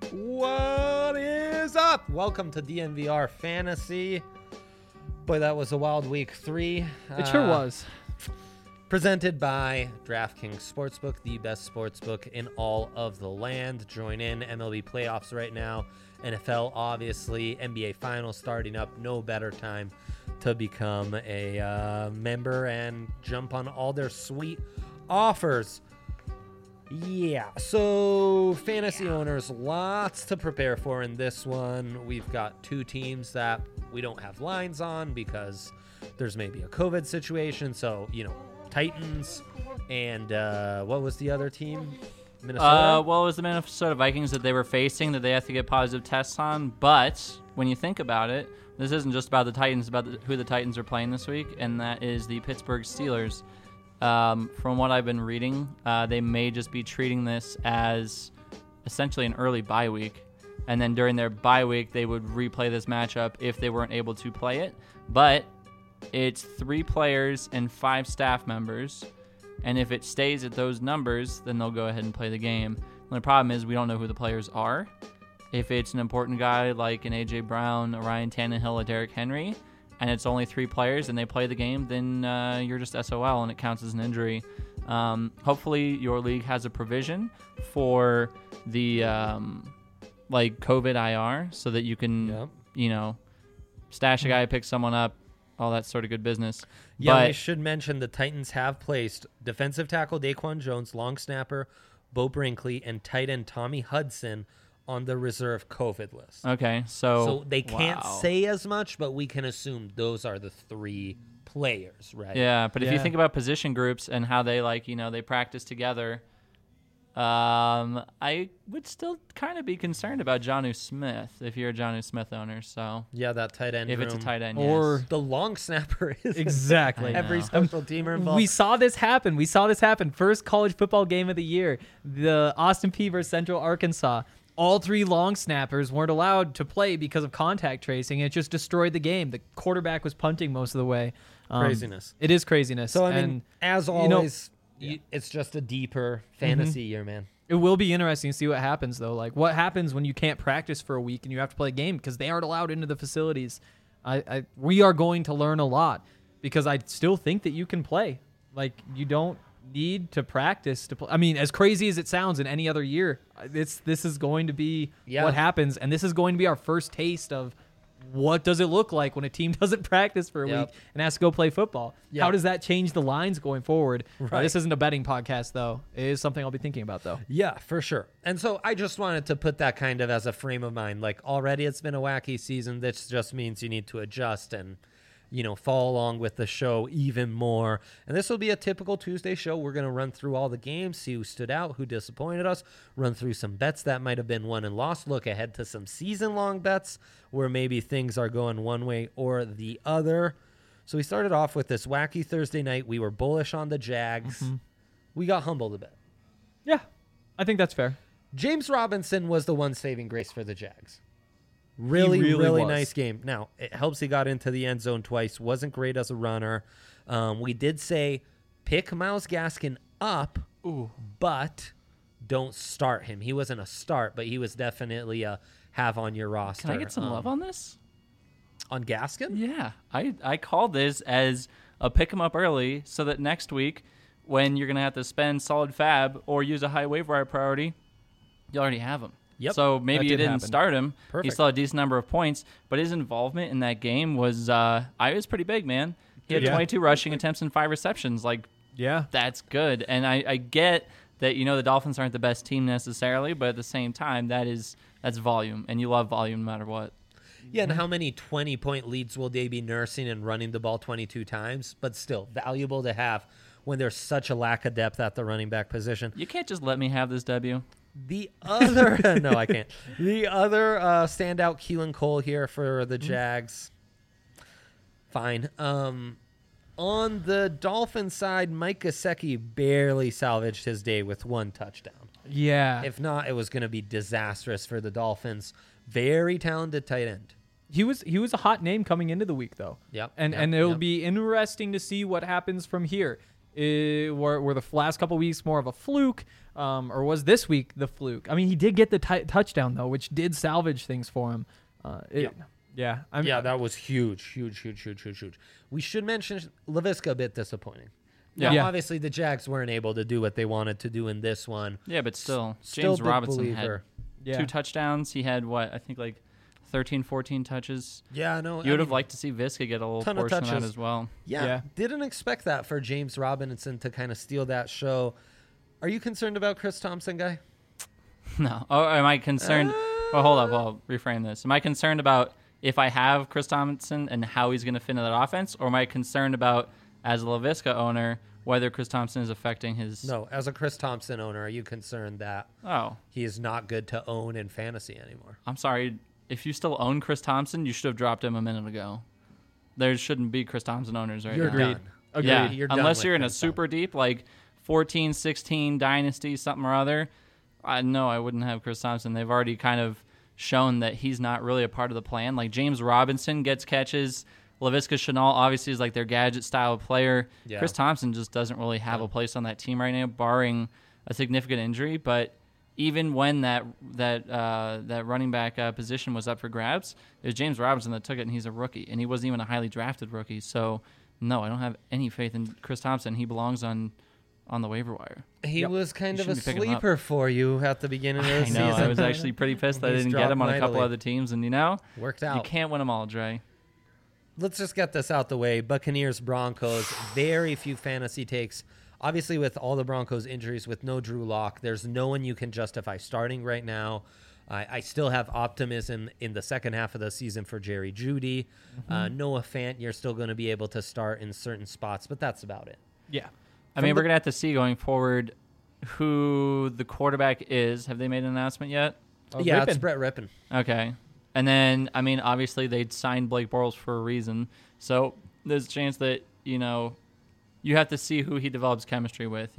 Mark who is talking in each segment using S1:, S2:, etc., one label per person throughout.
S1: What is up? Welcome to DNVR Fantasy. Boy, that was a wild week 3.
S2: It sure was.
S1: Presented by DraftKings Sportsbook, the best sportsbook in all of the land. Join in MLB playoffs right now. NFL, obviously. NBA Finals starting up. No better time to become a member and jump on all their sweet offers. Yeah, so fantasy owners, lots to prepare for in this one. We've got 2 teams that we don't have lines on because there's maybe a COVID situation. So, Titans and what was the other team? Minnesota?
S3: Well, it was the Minnesota Vikings that they were facing that they have to get positive tests on. But when you think about it, this isn't just about the Titans, about who the Titans are playing this week, and that is the Pittsburgh Steelers. From what I've been reading, they may just be treating this as essentially an early bye week. And then during their bye week, they would replay this matchup if they weren't able to play it. But it's 3 players and 5 staff members. And if it stays at those numbers, then they'll go ahead and play the game. The only problem is we don't know who the players are. If it's an important guy like an A.J. Brown, a Ryan Tannehill, a Derrick Henry, and it's only 3 players and they play the game, then you're just SOL and it counts as an injury. Hopefully your league has a provision for the COVID IR so that you can, stash a guy, pick someone up, all that sort of good business.
S1: Yeah,
S3: but
S1: I should mention the Titans have placed defensive tackle Daquan Jones, long snapper Bo Brinkley, and tight end Tommy Hudson on the reserve COVID list.
S3: Okay, so
S1: they can't say as much, but we can assume those are the 3 players, right?
S3: Yeah, but if you think about position groups and how they they practice together, I would still kind of be concerned about Jonnu Smith if you're a Jonnu Smith owner. So
S1: yeah, that tight end.
S3: If it's a tight end,
S2: or
S3: yes.
S1: The long snapper is
S2: exactly
S1: every special teamer involved.
S2: We saw this happen. First college football game of the year, the Austin Peay versus Central Arkansas. All 3 long snappers weren't allowed to play because of contact tracing. It just destroyed the game. The quarterback was punting most of the way.
S1: Craziness.
S2: It is craziness.
S1: So, I mean, as always, it's just a deeper fantasy year, man.
S2: It will be interesting to see what happens, though. Like, what happens when you can't practice for a week and you have to play a game because they aren't allowed into the facilities. We are going to learn a lot because I still think that you can play. Like, you don't need to practice to play. I mean, as crazy as it sounds in any other year, this is going to be what happens, and this is going to be our first taste of what does it look like when a team doesn't practice for a week and has to go play football. How does that change the lines going forward?
S1: Right.
S2: This isn't a betting podcast, though. It is something I'll be thinking about, though.
S1: Yeah, for sure. And so I just wanted to put that kind of as a frame of mind. Like, already it's been a wacky season. This just means you need to adjust and follow along with the show even more. And this will be a typical Tuesday show. We're going to run through all the games, see who stood out, who disappointed us, run through some bets that might have been won and lost, look ahead to some season-long bets where maybe things are going one way or the other. So we started off with this wacky Thursday night. We were bullish on the Jags. Mm-hmm. We got humbled a bit.
S2: Yeah, I think that's fair.
S1: James Robinson was the one saving grace for the Jags. Really
S2: was.
S1: Nice game. Now, it helps he got into the end zone twice. Wasn't great as a runner. We did say pick Myles Gaskin up, but don't start him. He wasn't a start, but he was definitely a have on your roster.
S3: Can I get some love on this?
S1: On Gaskin?
S3: Yeah. I called this as a pick him up early so that next week when you're going to have to spend solid fab or use a high waiver wire priority, you already have him.
S1: Yep.
S3: So maybe you didn't start him.
S1: Perfect.
S3: He still had a decent number of points, but his involvement in that game was was pretty big, man. He had 22 rushing attempts and 5 receptions. That's good. And I get that the Dolphins aren't the best team necessarily, but at the same time, that's volume, and you love volume no matter what.
S1: Yeah, and how many 20-point leads will they be nursing and running the ball 22 times? But still, valuable to have when there's such a lack of depth at the running back position.
S3: You can't just let me have this W.
S1: The other, no, I can't. The other standout, Keelan Cole here for the Jags. Fine. On the Dolphin side, Mike Gesicki barely salvaged his day with 1 touchdown.
S2: Yeah.
S1: If not, it was going to be disastrous for the Dolphins. Very talented tight end.
S2: He was a hot name coming into the week, though.
S1: Yep.
S2: And it'll be interesting to see what happens from here. Were the last couple weeks more of a fluke, or was this week the fluke? I mean, he did get the touchdown though, which did salvage things for him. Yeah,
S1: that was huge. We should mention LaVisca a bit disappointing.
S3: Yeah.
S1: Now, obviously the Jags weren't able to do what they wanted to do in this one.
S3: Yeah, but still
S1: Still
S3: James
S1: big
S3: Robinson
S1: believer.
S3: had 2 touchdowns. He had I think like 13, 14 touches.
S1: Yeah, no.
S3: You would have liked to see Visca get a little
S1: ton of
S3: portion of that
S1: touches.
S3: as well.
S1: Yeah, didn't expect that for James Robinson to kind of steal that show. Are you concerned about Chris Thompson, guy?
S3: No. Oh, am I concerned? Well, hold up. I'll reframe this. Am I concerned about if I have Chris Thompson and how he's going to fit into that offense, or am I concerned about, as a LaVisca owner, whether Chris Thompson is affecting his...
S1: No, as a Chris Thompson owner, are you concerned that he is not good to own in fantasy anymore?
S3: I'm sorry. If you still own Chris Thompson, you should have dropped him a minute ago. There shouldn't be Chris Thompson owners right
S1: You're
S3: now.
S1: done.
S2: Agreed.
S3: Yeah,
S1: You're done
S3: unless
S1: with
S3: you're in a
S1: Chris
S3: super deep, like 14, 16 dynasty, something or other. No, I wouldn't have Chris Thompson. They've already kind of shown that he's not really a part of the plan. Like James Robinson gets catches. LaVisca Chenault obviously is like their gadget style player.
S1: Yeah.
S3: Chris Thompson just doesn't really have a place on that team right now, barring a significant injury. But even when that running back position was up for grabs, it was James Robinson that took it, and he's a rookie, and he wasn't even a highly drafted rookie. So no, I don't have any faith in Chris Thompson. He belongs on the waiver wire.
S1: He was kind
S3: You
S1: of a
S3: shouldn't be picking him up.
S1: sleeper for you at the beginning of the
S3: I
S1: season.
S3: know. I was actually pretty pissed that I
S1: He's
S3: didn't get him on a
S1: dropped
S3: couple
S1: mightily.
S3: other teams, and
S1: Worked
S3: you
S1: out.
S3: can't win them all, Dre.
S1: Let's just get this out the way. Buccaneers, Broncos, very few fantasy takes. Obviously, with all the Broncos injuries, with no Drew Lock, there's no one you can justify starting right now. I still have optimism in the second half of the season for Jerry Jeudy. Noah Fant, you're still going to be able to start in certain spots, but that's about it.
S2: Yeah.
S3: I mean, we're going to have to see going forward who the quarterback is. Have they made an announcement yet?
S1: Yeah,
S2: Rippin.
S1: it's Brett Rippin.
S3: Okay. And then, I mean, obviously they'd signed Blake Bortles for a reason. So there's a chance that, you have to see who he develops chemistry with,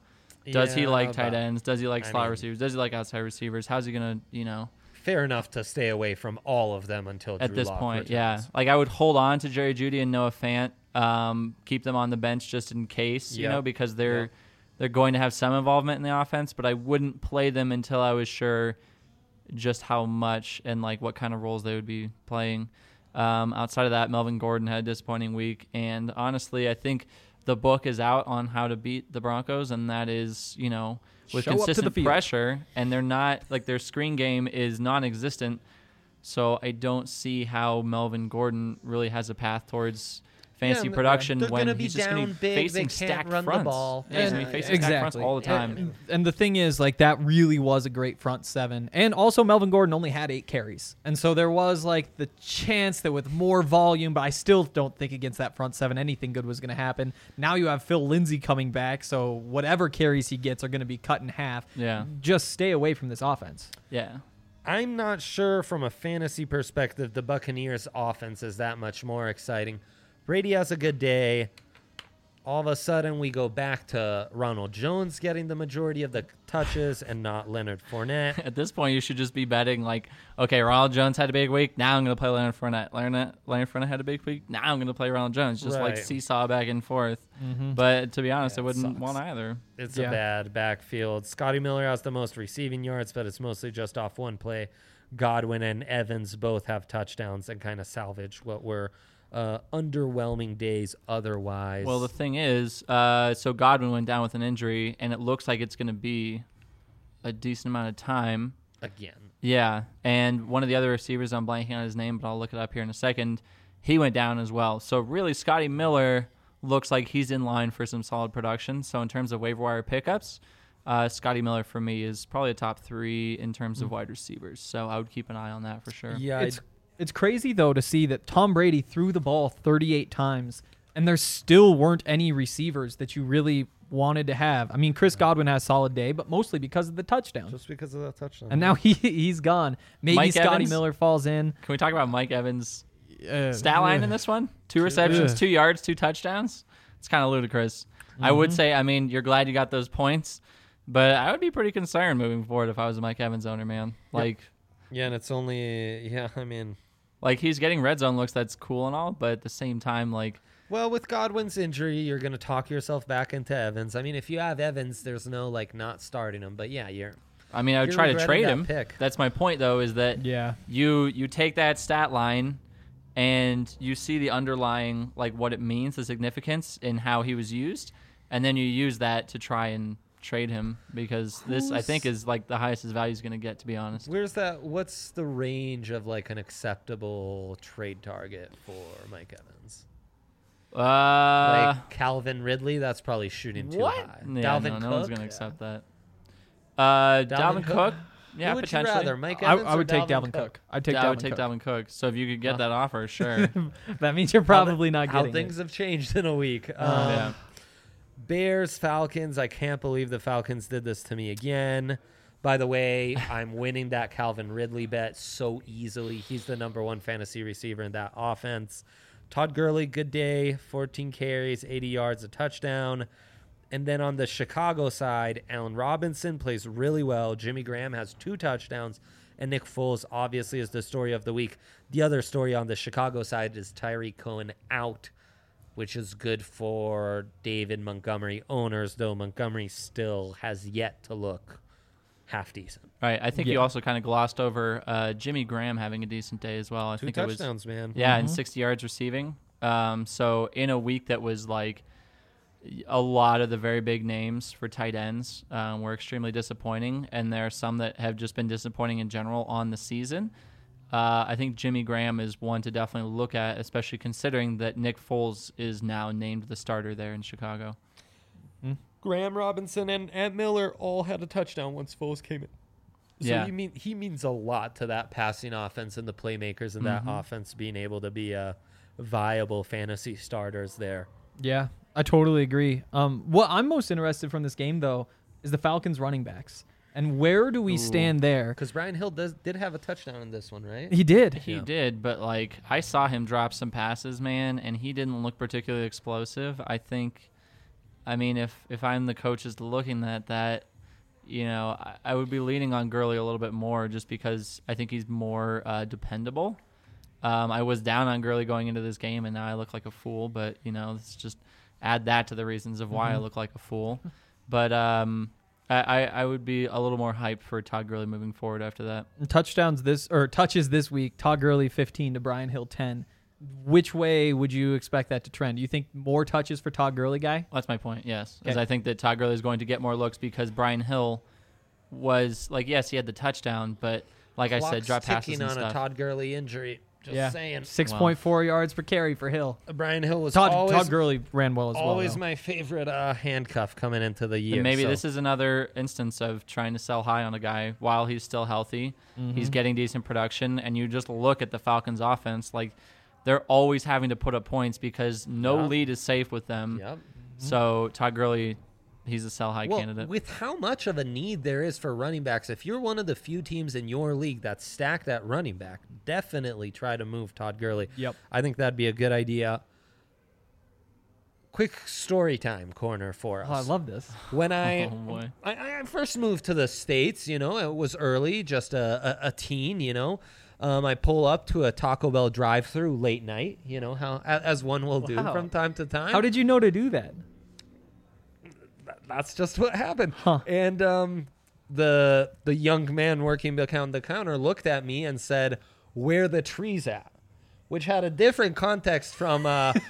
S3: Does he
S1: Yeah,
S3: like tight
S1: but-
S3: ends? Does he like slot
S1: mean-
S3: receivers? Does he like outside receivers? How's he going to,
S1: Fair enough to stay away from all of them until
S3: at
S1: Drew
S3: this
S1: Lock
S3: point,
S1: returns.
S3: yeah. Like I would hold on to Jerry Jeudy and Noah Fant, keep them on the bench just in case,
S1: Yep.
S3: because they're going to have some involvement in the offense, but I wouldn't play them until I was sure just how much and like what kind of roles they would be playing. Outside of that, Melvin Gordon had a disappointing week, and honestly, I think the book is out on how to beat the Broncos, and that is, with
S2: Show up to the
S3: consistent
S2: field.
S3: pressure, and they're not like their screen game is non-existent. So I don't see how Melvin Gordon really has a path towards fantasy
S1: and
S3: production
S1: they're
S3: when
S1: gonna be
S3: he's just going to
S1: down
S3: be
S1: big, they
S3: facing
S1: can't
S3: stacked
S1: run the
S3: fronts.
S1: ball.
S3: Yeah, he's going to be facing stacked fronts all the time.
S2: And the thing is, like, that really was a great front seven. And also, Melvin Gordon only had 8 carries. And so there was, like, the chance that with more volume, but I still don't think against that front seven anything good was going to happen. Now you have Phil Lindsay coming back, so whatever carries he gets are going to be cut in half.
S3: Yeah.
S2: Just stay away from this offense.
S3: Yeah.
S1: I'm not sure from a fantasy perspective the Buccaneers offense is that much more exciting. Brady has a good day. All of a sudden, we go back to Ronald Jones getting the majority of the touches and not Leonard Fournette.
S3: At this point, you should just be betting like, okay, Ronald Jones had a big week. Now I'm going to play Leonard Fournette. Leonard Fournette had a big week. Now I'm going to play Ronald Jones. Just like
S1: Right.
S3: seesaw back and forth. But to be honest,
S1: Yeah,
S3: I
S1: it
S3: wouldn't
S1: sucks.
S3: want either.
S1: It's
S2: Yeah.
S1: a bad backfield. Scotty Miller has the most receiving yards, but it's mostly just off one play. Godwin and Evans both have touchdowns and kind of salvage what were underwhelming days otherwise.
S3: Well, the thing is, so Godwin went down with an injury, and it looks like it's going to be a decent amount of time.
S1: Again.
S3: Yeah, and one of the other receivers, I'm blanking on his name, but I'll look it up here in a second, he went down as well. So really, Scotty Miller looks like he's in line for some solid production. So in terms of waiver wire pickups, Scotty Miller for me is probably a top 3 in terms of wide receivers. So I would keep an eye on that for sure.
S1: Yeah,
S2: It's crazy, though, to see that Tom Brady threw the ball 38 times, and there still weren't any receivers that you really wanted to have. I mean, Chris Godwin has a solid day, but mostly because of the touchdown.
S1: just because of that touchdown.
S2: And now he's gone. Maybe
S3: Mike
S2: Scotty
S3: Evans?
S2: Miller falls in.
S3: Can we talk about Mike Evans' stat line in this one? 2 receptions,
S2: Ugh.
S3: 2 yards, 2 touchdowns. It's kind of ludicrous. I would say, I mean, you're glad you got those points, but I would be pretty concerned moving forward if I was a Mike Evans owner, man. Like,
S1: yeah, and it's only, I mean.
S3: Like he's getting red zone looks, that's cool and all, but at the same time, like
S1: Well, with Godwin's injury, you're going to talk yourself back into Evans. I mean, if you have Evans, there's no like not starting him. But yeah,
S3: I mean, I would
S1: you're
S3: try to
S1: regretting
S3: trade
S1: that
S3: him.
S1: pick.
S3: That's my point, though, is that
S2: Yeah.
S3: you take that stat line and you see the underlying, like what it means, the significance in how he was used, and then you use that to try and trade him because this, I think, is like the highest his value is going to get, to be honest.
S1: Where's that? What's the range of like an acceptable trade target for Mike Evans? Like Calvin Ridley, that's probably shooting too
S3: what?
S1: high.
S3: Yeah,
S1: Dalvin
S3: no one's
S1: Cook?
S3: going to accept that. Dalvin Cook? Yeah,
S1: Who would
S3: potentially.
S1: you rather, Mike Evans
S2: I
S1: or
S2: would take Dalvin Cook. I'd take
S3: I
S2: Dalvin
S3: would take
S2: Cook.
S3: Dalvin Cook. So if you could get that offer, sure.
S2: That means you're probably not
S1: How
S2: getting
S1: things
S2: it.
S1: have changed in a week.
S3: Yeah.
S1: Bears, Falcons. I can't believe the Falcons did this to me again. By the way, I'm winning that Calvin Ridley bet so easily. He's the number one fantasy receiver in that offense. Todd Gurley, good day, 14 carries, 80 yards, a touchdown. And then on the Chicago side, Allen Robinson plays really well. Jimmy Graham has 2 touchdowns. And Nick Foles obviously is the story of the week. The other story on the Chicago side is Tyreek Cohen out, which is good for David Montgomery owners, though Montgomery still has yet to look half decent.
S3: Right. I think
S2: Yeah.
S3: you also kind of glossed over Jimmy Graham having a decent day as well. I
S1: 2
S3: think
S1: touchdowns, man.
S3: Yeah, and 60 yards receiving. So in a week that was like a lot of the very big names for tight ends were extremely disappointing, and there are some that have just been disappointing in general on the season. I think Jimmy Graham is one to definitely look at, especially considering that Nick Foles is now named the starter there in Chicago.
S1: Graham, Robinson, and Miller all had a touchdown once Foles came in. So
S3: Yeah.
S1: you mean he means a lot to that passing offense and the playmakers in that offense being able to be viable fantasy starters there.
S2: Yeah, I totally agree. What I'm most interested from this game, though, is the Falcons running backs. And where do we stand there?
S1: Because Brian Hill did have a touchdown in this one, right?
S2: He did.
S3: He
S1: Yeah.
S3: did, but like I saw him drop some passes, man, and he didn't look particularly explosive. I mean, if I'm the coaches looking at that, you know, I would be leaning on Gurley a little bit more just because I think he's more dependable. I was down on Gurley going into this game, and now I look like a fool. But you know, let's just add that to the reasons of why I look like a fool. But I would be a little more hyped for Todd Gurley moving forward after that.
S2: Touches this week. Todd Gurley 15 to Brian Hill 10. Which way would you expect that to trend? Do you think more touches for Todd Gurley, guy?
S3: That's my point, yes. Because
S2: Okay.
S3: I think that Todd Gurley is going to get more looks because Brian Hill was, like, yes, he had the touchdown, but like I said, drop passes
S1: ticking
S3: and
S1: on
S3: stuff.
S1: a Todd Gurley injury. Just saying.
S2: 6.4 yards per carry for Hill.
S1: Brian Hill was
S2: Todd Gurley ran well as well.
S1: always
S2: though.
S1: my favorite handcuff coming into the year.
S3: And maybe
S1: so.
S3: this is another instance of trying to sell high on a guy while he's still healthy. He's getting decent production, and you just look at the Falcons' offense, like they're always having to put up points because no
S1: Yep.
S3: lead is safe with them.
S1: Yep.
S3: So Todd Gurley, he's a sell high candidate.
S1: With how much of a need there is for running backs, if you're one of the few teams in your league that's stacked at running back, definitely try to move Todd Gurley.
S2: Yep.
S1: I think that'd be a good idea. Quick story time corner for us.
S2: Oh, I love this.
S1: When
S3: Oh, boy.
S1: I first moved to the States, you know, it was early, just a teen, you know. I pull up to a Taco Bell drive-through late night, you know, how as one will do
S2: Wow.
S1: from time to time.
S2: How did you know to do that?
S1: That's just what happened.
S2: Huh.
S1: And the young man working behind the counter looked at me and said, "Where the trees at?" Which had a different context from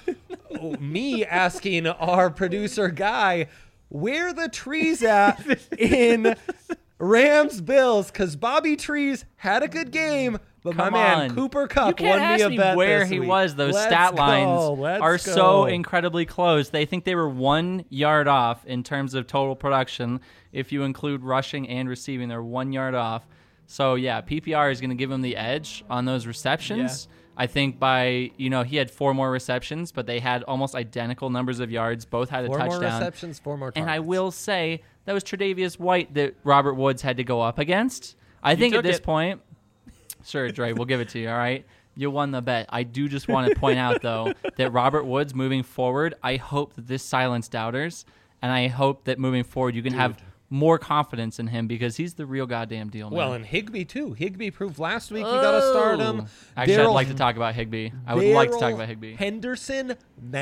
S1: me asking our producer Guy, "Where the trees at in Rams Bills?" Because Bobby Trees had a good game, but
S3: Come
S1: my man
S3: on.
S1: Cooper
S3: You
S1: Cup
S3: can't
S1: won me
S3: ask
S1: a
S3: me
S1: bet
S3: where
S1: this
S3: he
S1: week.
S3: was. Those
S1: Let's
S3: stat
S1: go,
S3: lines
S1: let's
S3: are
S1: go.
S3: so incredibly close. They think they were 1 yard off in terms of total production. If you include rushing and receiving, they're 1 yard off. So, yeah, PPR is going to give him the edge on those receptions. I think he had 4 more receptions, but they had almost identical numbers of yards. Both had a
S1: 4 more
S3: touchdown.
S1: receptions, 4 more targets.
S3: And I will say that was Tre'Davious White that Robert Woods had to go up against. I think at
S2: took
S3: this
S2: it.
S3: point, sure, Dre, we'll give it to you, all right? You won the bet. I do just want to point out, though, that Robert Woods moving forward, I hope that this silenced doubters, and I hope that moving forward you can have more confidence in him because he's the real goddamn deal, man.
S1: Well, and Higbee too. Higbee proved last week you got to start him.
S3: Actually, I'd like to talk about Higbee. I would like to talk about Higbee.
S1: Henderson,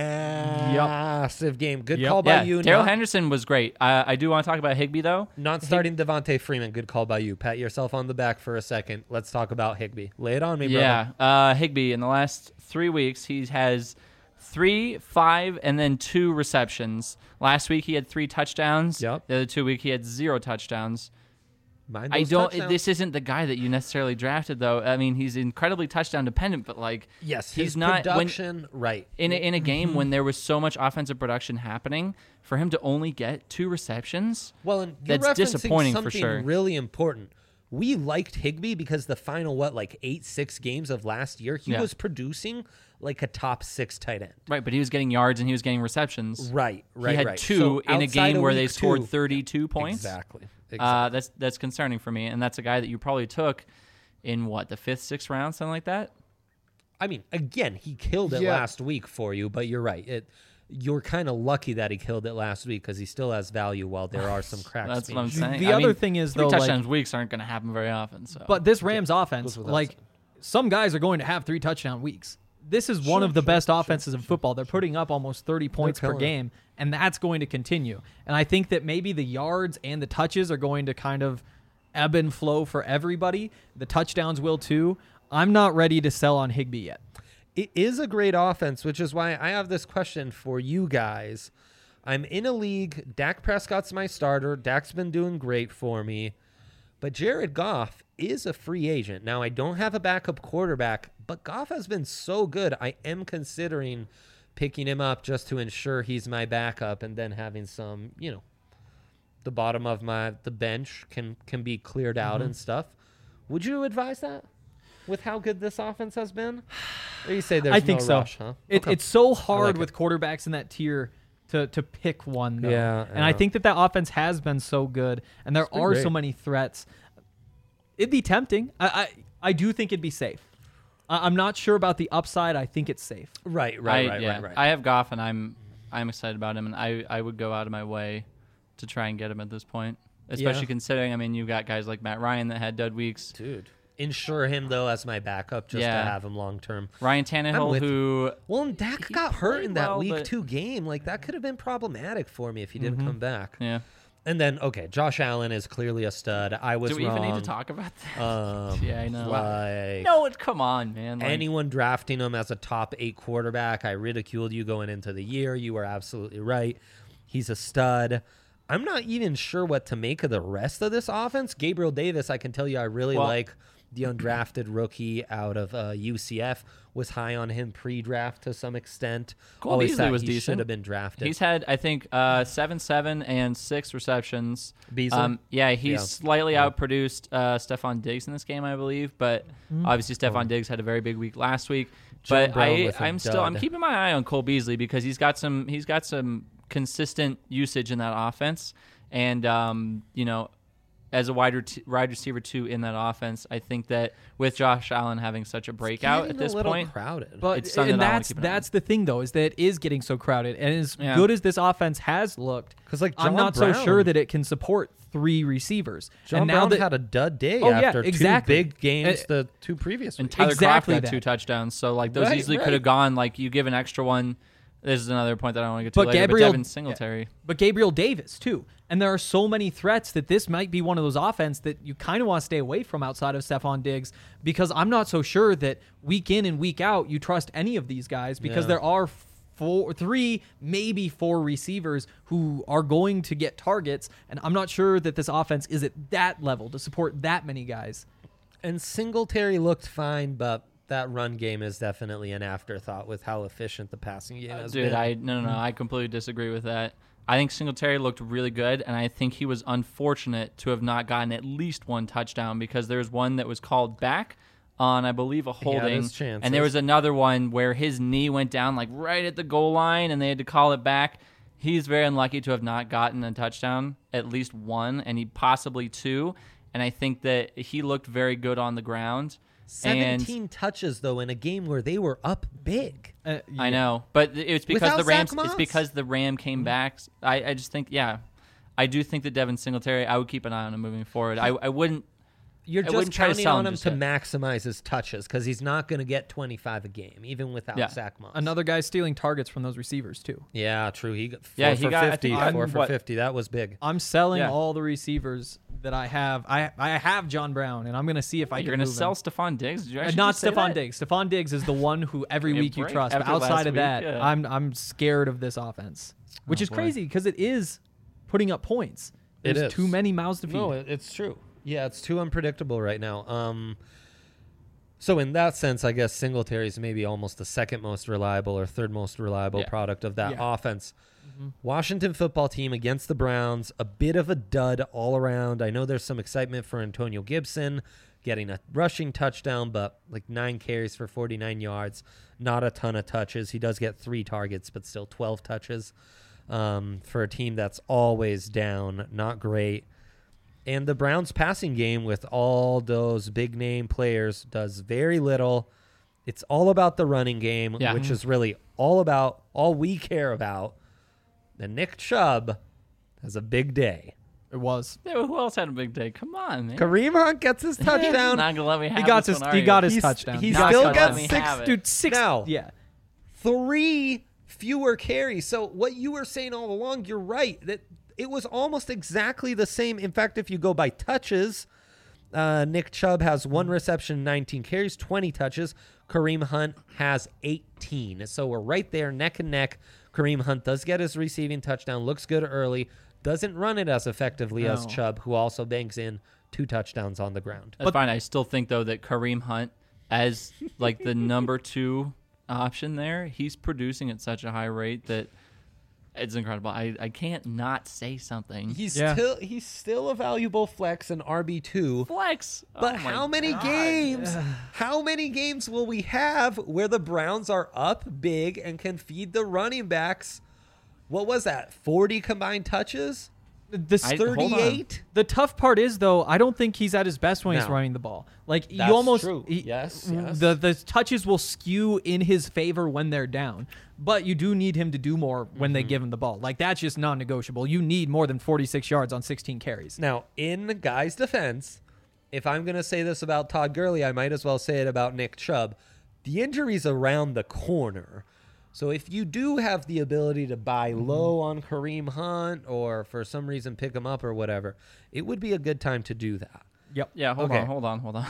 S1: massive game. Good call by
S3: Yeah,
S1: you.
S3: Darrell Henderson was great. I do want to talk about Higbee, though.
S1: Not starting Devontae Freeman. Good call by you. Pat yourself on the back for a second. Let's talk about Higbee. Lay it on me, brother.
S3: Yeah, Higbee, in the last 3 weeks, he has 3, 5, and then 2 receptions. Last week, he had 3 touchdowns.
S1: Yep.
S3: The other 2 weeks, he had 0 touchdowns.
S1: Mind
S3: I
S1: those
S3: don't.
S1: touchdowns.
S3: This isn't the guy that you necessarily drafted, though. I mean, he's incredibly touchdown dependent, but like,
S1: Yes,
S3: he's
S1: his
S3: not
S1: production. Right.
S3: in a game when there was so much offensive production happening. For him to only get 2 receptions,
S1: Well, and you're
S3: that's
S1: referencing
S3: disappointing for
S1: something
S3: sure.
S1: really important. We liked Higbee because the final 6 games of last year, he
S3: Yeah.
S1: was producing like a top 6 tight end.
S3: Right, but he was getting yards and he was getting receptions.
S1: Right.
S3: He had 2 in a game where they scored 32 points.
S1: Exactly.
S3: That's concerning for me, and that's a guy that you probably took in the 5th, 6th round, something like that.
S1: I mean, again, he killed it last week for you, but you're right. You're kind of lucky that he killed it last week because he still has value while there are some cracks.
S3: That's what I'm saying.
S2: The other thing is,
S3: 3
S2: though,
S3: touchdowns weeks aren't going to happen very often. So,
S2: But this Rams offense,
S1: without
S2: like,
S1: saying.
S2: some guys are going to have 3 touchdown weeks. This is one of the best offenses in football. They're putting up almost 30 points per
S1: killing it.
S2: game, and that's going to continue. And I think that maybe the yards and the touches are going to kind of ebb and flow for everybody. The touchdowns will too. I'm not ready to sell on Higbee yet.
S1: It is a great offense, which is why I have this question for you guys. I'm in a league. Dak Prescott's my starter. Dak's been doing great for me. But Jared Goff is a free agent. Now, I don't have a backup quarterback, but Goff has been so good. I am considering picking him up just to ensure he's my backup and then having some, the bottom of the bench can be cleared out and stuff. Would you advise that with how good this offense has been? Or you say there's
S2: I think
S1: no
S2: so.
S1: rush, huh?
S2: It's so hard
S1: like
S2: with quarterbacks in that tier to pick one, though.
S1: Yeah,
S2: and I
S1: yeah.
S2: think that offense has been so good, and there
S1: been
S2: are so
S1: great.
S2: many threats. It'd be tempting. I do think it'd be safe. I'm not sure about the upside. I think it's safe.
S1: Right.
S3: I have Goff, and I'm excited about him, and I would go out of my way to try and get him at this point, especially considering, I mean, you've got guys like Matt Ryan that had dud weeks.
S1: Dude. Insure him, though, as my backup just to have him long term.
S3: Ryan
S1: I'm
S3: Tannehill,
S1: with
S3: who
S1: Well, and Dak
S3: he
S1: got hurt
S3: played
S1: in that
S3: well,
S1: week
S3: but-
S1: 2 game. Like, that could have been problematic for me if he didn't come back.
S3: yeah.
S1: And then, okay, Josh Allen is clearly a stud. I was
S3: Do we
S1: wrong.
S3: even need to talk about that? Yeah, I know.
S1: Like,
S3: No, come on, man. Like,
S1: anyone drafting him as a top 8 quarterback, I ridiculed you going into the year. You were absolutely right. He's a stud. I'm not even sure what to make of the rest of this offense. Gabriel Davis, I can tell you I really like. The undrafted rookie out of UCF, was high on him pre-draft to some extent.
S3: Cole
S1: Always
S3: Beasley
S1: thought
S3: was
S1: he
S3: decent.
S1: should have been drafted.
S3: He's had, I think, 7 and 6 receptions.
S1: Beasley?
S3: He's slightly outproduced Stephon Diggs in this game, I believe. But obviously, Stephon Diggs had a very big week last week.
S1: Joe
S3: But
S1: Brown with a
S3: I'm
S1: dud.
S3: keeping my eye on Cole Beasley because he's got some consistent usage in that offense, and as a wide receiver too in that offense, I think that with Josh Allen having such a breakout
S1: Getting
S3: at this
S1: a little
S3: point,
S1: crowded.
S2: But
S3: It's something
S2: and
S3: that I wanna
S2: that's
S3: keep an eye on.
S2: that's the thing, though, is that it is getting so crowded. And as
S3: Yeah.
S2: good as this offense has looked,
S1: 'Cause, like,
S2: I'm
S1: John
S2: not so
S1: Brown-
S2: sure that it can support 3 receivers.
S1: John
S2: and now
S1: Brown
S2: that
S1: had a dud day
S2: Oh, yeah,
S1: after
S2: exactly.
S1: 2 big games the 2 previous
S3: and
S1: weeks.
S3: Tyler
S2: Exactly
S3: Kroft got
S2: that.
S3: 2 touchdowns, so like those
S1: Right,
S3: easily
S1: right.
S3: could have gone. Like you give an extra one. This is another point that I don't want to get to
S2: But
S3: later.
S2: Gabriel-
S3: but Devin Singletary.
S2: But Gabriel Davis, too. And there are so many threats that this might be one of those offense that you kind of want to stay away from outside of Stephon Diggs, because I'm not so sure that week in and week out you trust any of these guys, because
S1: Yeah.
S2: there are 3, maybe 4 receivers who are going to get targets, and I'm not sure that this offense is at that level to support that many guys.
S1: And Singletary looked fine, but that run game is definitely an afterthought with how efficient the passing game has
S3: Dude,
S1: been.
S3: no, I completely disagree with that. I think Singletary looked really good, and I think he was unfortunate to have not gotten at least 1 touchdown because there's one that was called back on, I believe, a holding,
S1: there's chances.
S3: and there was another one where his knee went down like right at the goal line, and they had to call it back. He's very unlucky to have not gotten a touchdown, at least 1, and he possibly 2. And I think that he looked very good on the ground.
S1: 17 touches, though, in a game where they were up big.
S3: I know, but it's because
S1: Without
S3: the Rams.
S1: Zach Moss?
S3: It's because the Ram came back. I just think, I I do think that Devin Singletary, I would keep an eye on him moving forward. I wouldn't.
S1: You're
S3: I
S1: just
S3: wouldn't try to
S1: counting
S3: sell
S1: on
S3: him
S1: him
S3: just
S1: to
S3: yet.
S1: maximize his touches because he's not going to get 25 a game, even without
S3: Yeah.
S1: Zach Moss.
S2: Another guy stealing targets from those receivers too.
S1: Yeah, true. He got 4
S3: Yeah,
S1: for
S3: he got- I
S1: 50.
S3: think
S1: 4 for
S3: what-
S1: 50. That was big.
S2: I'm selling
S3: Yeah.
S2: all the receivers that I have. I have John Brown, and I'm going to see if I
S3: You're
S2: can
S3: going to
S2: move
S3: sell
S2: him.
S3: Stephon Diggs? Did you actually
S2: Not
S3: just say
S2: Stephon
S3: that?
S2: Diggs. Stephon Diggs is the one who every
S3: Give me a
S2: week you
S3: break
S2: trust. But
S3: after last
S2: outside of
S3: week,
S2: that,
S3: yeah.
S2: I'm scared of this offense, which
S3: Oh,
S2: is
S3: boy.
S2: crazy because it is putting up points.
S1: It
S2: There's
S1: is.
S2: too many mouths to feed.
S1: No, it's true. Yeah, it's too unpredictable right now. So in that sense, I guess Singletary is maybe almost the second most reliable or third most reliable
S3: Yeah.
S1: product of that
S2: Yeah.
S1: offense. Washington football team against the Browns, a bit of a dud all around. I know there's some excitement for Antonio Gibson getting a rushing touchdown, but like 9 carries for 49 yards, not a ton of touches. He does get 3 targets, but still 12 touches for a team that's always down. Not great. And the Browns passing game with all those big name players does very little. It's all about the running game,
S3: Yeah.
S1: which is really all we care about. And Nick Chubb has a big day.
S2: It was.
S3: Yeah, who else had a big day? Come on, man.
S1: Kareem Hunt gets his touchdown.
S3: Not gonna let me have
S2: He got
S3: this
S2: his.
S3: one, are
S2: He
S3: you?
S2: got his
S1: He's-
S2: touchdown.
S1: he
S3: Not
S1: still
S3: gonna
S1: got
S3: let me
S1: 6
S3: have it.
S2: Dude, 6.
S1: Now.
S2: Yeah.
S1: 3 fewer carries. So what you were saying all along, you're right. That it was almost exactly the same. In fact, if you go by touches, Nick Chubb has 1 reception, 19 carries, 20 touches. Kareem Hunt has 18. So we're right there, neck and neck. Kareem Hunt does get his receiving touchdown, looks good early, doesn't run it as effectively as
S2: No.
S1: Chubb, who also bangs in 2 touchdowns on the ground.
S3: That's fine. I still think though that Kareem Hunt, as like the number 2 option there, he's producing at such a high rate that it's incredible. I can't not say something.
S1: He's
S2: Yeah.
S1: still a valuable flex in RB2.
S3: Flex.
S1: But
S3: Oh my
S1: how many
S3: God.
S1: games? How many games will we have where the Browns are up big and can feed the running backs? What was that? 40 combined touches?
S2: This
S3: hold on.
S1: 38?
S2: The tough part is, though, I don't think he's at his best when he's
S1: No.
S2: running the ball. Like
S1: That's
S2: you almost,
S1: true. Yes.
S2: The touches will skew in his favor when they're down, but you do need him to do more when they give him the ball. Like that's just non-negotiable. You need more than 46 yards on 16 carries.
S1: Now, in the guy's defense, if I'm going to say this about Todd Gurley, I might as well say it about Nick Chubb. The injury's around the corner. So if you do have the ability to buy low on Kareem Hunt or for some reason pick him up or whatever, it would be a good time to do that.
S2: Yep.
S3: Yeah, hold
S1: Okay.
S3: on.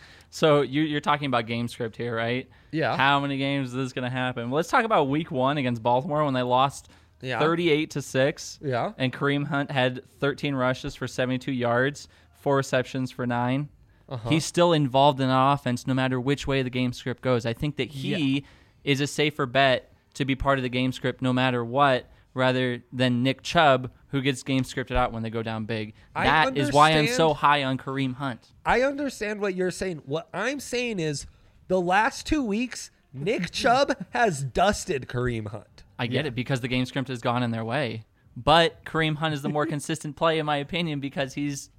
S3: So you're talking about game script here, right?
S1: Yeah.
S3: How many games is this going to happen? Well, let's talk about Week 1 against Baltimore when they lost
S1: Yeah.
S3: 38-6.
S1: Yeah.
S3: And Kareem Hunt had 13 rushes for 72 yards, 4 receptions for 9. He's still involved in that offense no matter which way the game script goes. I think that he is a safer bet to be part of the game script no matter what, rather than Nick Chubb, who gets game scripted out when they go down big.
S1: I
S3: That is why I'm so
S1: understand.
S3: high on Kareem Hunt.
S1: I understand what you're saying. What I'm saying is the last 2 weeks, Nick Chubb has dusted Kareem Hunt.
S3: I get it because the game script has gone in their way. But Kareem Hunt is the more consistent play in my opinion because he's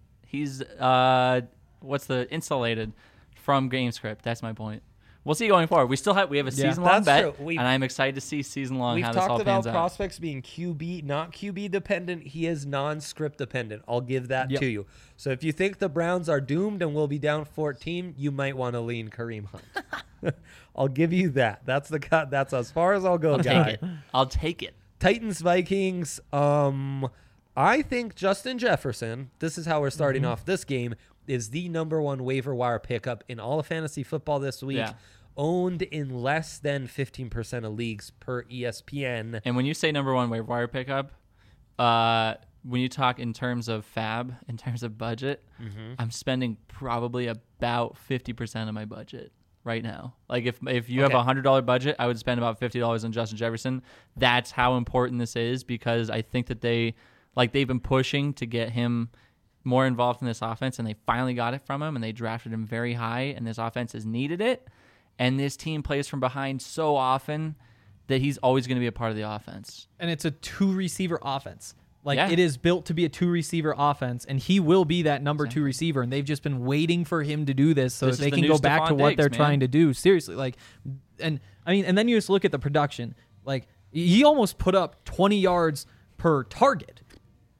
S3: insulated from game script. That's my point. We'll see going forward. We have a season long
S1: That's
S3: bet,
S1: true.
S3: and I'm excited to see season long
S1: We've
S3: how this all
S1: talked about
S3: pans out.
S1: prospects being QB, not QB dependent. He is non-script dependent. I'll give that
S2: Yep.
S1: to you. So if you think the Browns are doomed and will be down 14, you might want to lean Kareem Hunt. I'll give you that. That's the cut. That's as far as I'll go, guy.
S3: I'll take it.
S1: Titans Vikings. I think Justin Jefferson. This is how we're starting off this game. Is the number 1 waiver wire pickup in all of fantasy football this week.
S3: Yeah.
S1: Owned in less than 15% of leagues per ESPN.
S3: And when you say number 1 waiver wire pickup, when you talk in terms of fab, in terms of budget, I'm spending probably about 50% of my budget right now. Like if you have a $100 budget, I would spend about $50 on Justin Jefferson. That's how important this is because I think that they've been pushing to get him more involved in this offense, and they finally got it from him, and they drafted him very high, and this offense has needed it. And this team plays from behind so often that he's always going to be a part of the offense.
S2: And it's a 2-receiver offense. Like
S3: Yeah.
S2: it is built to be a 2-receiver offense, and he will be that number 2 receiver. And they've just been waiting for him to do this so
S3: This
S2: that
S3: is
S2: they
S3: the
S2: can
S3: new
S2: go back to
S3: Stephon
S2: what
S3: Diggs,
S2: they're
S3: man.
S2: trying to do. Seriously, and then you just look at the production. Like he almost put up 20 yards per target.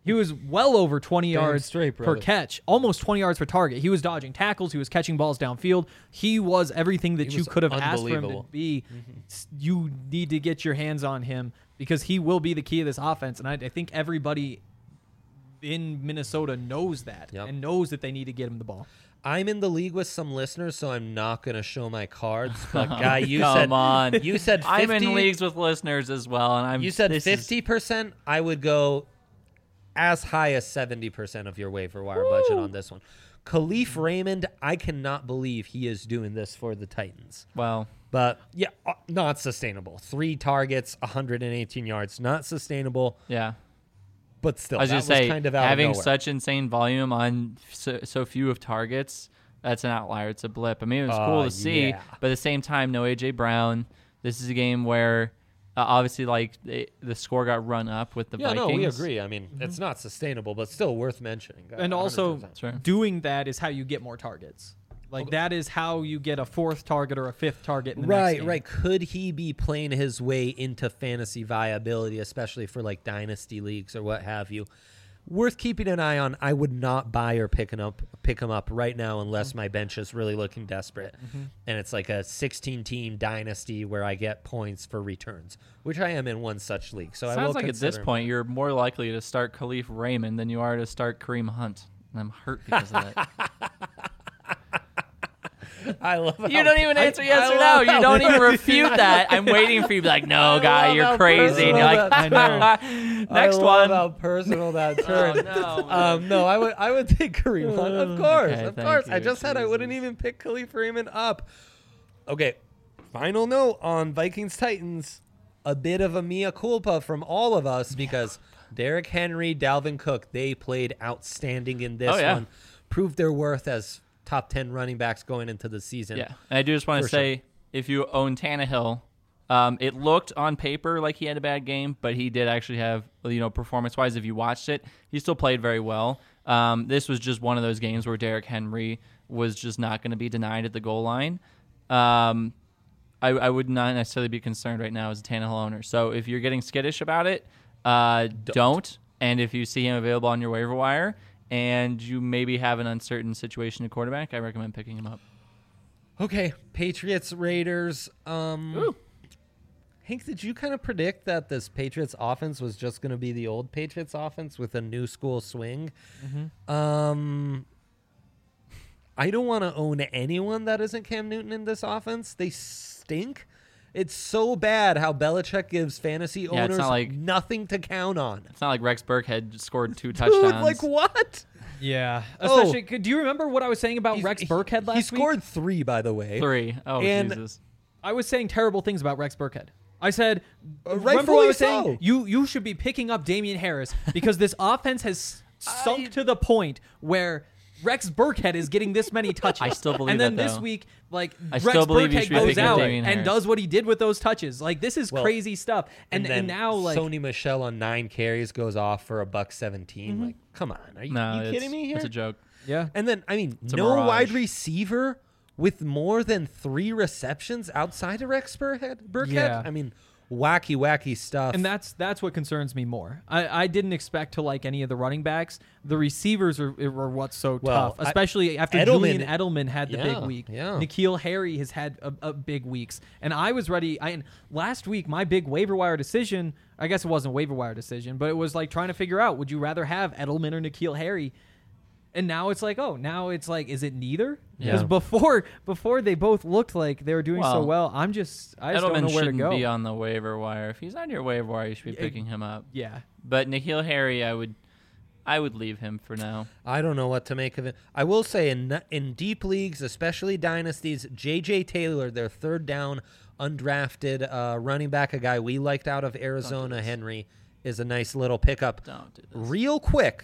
S2: He was well over 20
S1: Damn
S2: yards
S1: straight,
S2: per
S1: brother.
S2: catch, almost 20 yards per target. He was dodging tackles. He was catching balls downfield. He was everything that
S1: He
S2: you
S1: was
S2: could have asked for him to
S1: unbelievable.
S2: be. You need to get your hands on him because he will be the key of this offense. And I think everybody in Minnesota knows that and knows that they need to get him the ball.
S1: I'm in the league with some listeners, so I'm not going to show my cards. But Guy, you
S3: Come
S1: said
S3: on.
S1: you said 50,
S3: I'm in leagues with listeners as well, and I'm.
S1: You said
S3: this is-
S1: 50%. I would go as high as 70% of your waiver wire budget on this one. Khalif Raymond, I cannot believe he is doing this for the Titans.
S3: Well,
S1: But yeah, not sustainable. 3 targets, 118 yards, not sustainable.
S3: yeah.
S1: But still,
S3: I was
S1: that
S3: gonna say
S1: kind of out
S3: having
S1: of nowhere.
S3: such insane volume on so few of targets, that's an outlier. It's a blip. I mean, it was cool to see,
S1: yeah.
S3: but at the same time, no AJ Brown. This is a game where obviously, like the score got run up with the
S1: Yeah,
S3: Vikings.
S1: no, we agree. I mean, it's not sustainable, but still worth mentioning.
S2: And also,
S1: 100%.
S3: Sure.
S2: doing that is how you get more targets. Like, that is how you get a 4th target or a 5th target in the next game.
S1: Right. Could he be playing his way into fantasy viability, especially for like dynasty leagues or what have you? Worth keeping an eye on. I would not buy or pick him up right now unless my bench is really looking desperate, and it's like a 16-team dynasty where I get points for returns, which I am in one such league. So I will
S3: Sounds like at this
S1: consider him.
S3: point, you're more likely to start Khalif Raymond than you are to start Kareem Hunt. And I'm hurt because of that.
S1: I love.
S3: You don't even answer yes or no. You don't even refute that. I'm waiting for you to be like, no, guy,
S1: love
S3: you're
S1: how
S3: crazy. And you're like,
S1: personal that-
S3: next
S1: I
S3: one.
S1: love how personal that
S3: Oh,
S1: turned.
S3: no.
S1: No, I would take Kareem Hunt. Of course,
S3: Okay,
S1: of
S3: thank
S1: course. I
S3: you,
S1: just said I wouldn't
S3: Jesus.
S1: even pick Khalif Raymond up. Okay, final note on Vikings Titans. A bit of a mea culpa from all of us because Derrick Henry, Dalvin Cook, they played outstanding in this
S3: Oh, yeah.
S1: one. Proved their worth as top 10 running backs going into the season.
S3: Yeah, and I do just want to
S1: For sure.
S3: say, if you own Tannehill, it looked on paper like he had a bad game, but he did actually have, performance-wise, if you watched it, he still played very well. This was just one of those games where Derrick Henry was just not going to be denied at the goal line. I would not necessarily be concerned right now as a Tannehill owner. So if you're getting skittish about it, don't. And if you see him available on your waiver wire and you maybe have an uncertain situation at quarterback, I recommend picking him up.
S1: Okay, Patriots, Raiders. Hank, did you kind of predict that this Patriots offense was just going to be the old Patriots offense with a new school swing? I don't want to own anyone that isn't Cam Newton in this offense. They stink. It's so bad how Belichick gives fantasy
S3: it's
S1: owners
S3: not like-
S1: nothing to count on.
S3: It's not like Rex Burkhead scored 2 touchdowns.
S1: Dude, like what?
S2: Yeah.
S1: Oh.
S2: Especially, do you remember what I was saying about Rex Burkhead last
S1: He
S2: week?
S1: scored 3, by the way.
S3: 3. Oh,
S1: And-
S3: Jesus.
S2: I was saying terrible things about Rex Burkhead. I said, remember
S1: rightfully
S2: what I was
S1: so.
S2: saying? You should be picking up Damian Harris because this offense has sunk to the point where Rex Burkhead is getting this many touches.
S3: I still believe
S2: And then
S3: that,
S2: this
S3: though.
S2: week, like,
S3: I
S2: Rex
S3: still believe you
S2: Burkhead
S3: should be
S2: goes
S3: picking up
S2: out
S3: Damian
S2: and
S3: Harris.
S2: does what he did with those touches. Like, this is
S1: Well,
S2: crazy stuff. And
S1: then
S2: now, like,
S1: Sony Michelle on 9 carries goes off for $117. Like, come on, are you,
S3: No,
S1: you kidding me here?
S3: It's a joke.
S2: yeah.
S1: And then, I mean,
S3: a
S1: no
S3: mirage.
S1: wide receiver with more than 3 receptions outside of Rex Burkhead.
S2: Yeah.
S1: I mean, wacky stuff.
S2: And that's what concerns me more. I didn't expect to like any of the running backs. The receivers are what's so
S1: Well,
S2: tough, especially after
S1: Edelman-
S2: Julian Edelman had the
S1: Yeah,
S2: big week.
S1: yeah.
S2: N'Keal Harry has had a big weeks, and I was ready. And last week, my big waiver wire decision. I guess it wasn't a waiver wire decision, but it was like trying to figure out: would you rather have Edelman or N'Keal Harry? And now it's like, is it neither? Because
S3: Yeah.
S2: before they both looked like they were doing so
S3: Well,
S2: well. I just don't
S3: Edelman
S2: know where to
S3: shouldn't
S2: go.
S3: be on the waiver wire. If he's on your waiver wire, you should be picking him up.
S2: Yeah.
S3: But N'Keal Harry, I would leave him for now.
S1: I don't know what to make of it. I will say in deep leagues, especially dynasties, J.J. Taylor, their third down undrafted running back, a guy we liked out of Arizona, Henry, is a nice little pickup.
S3: Don't do this.
S1: Real quick,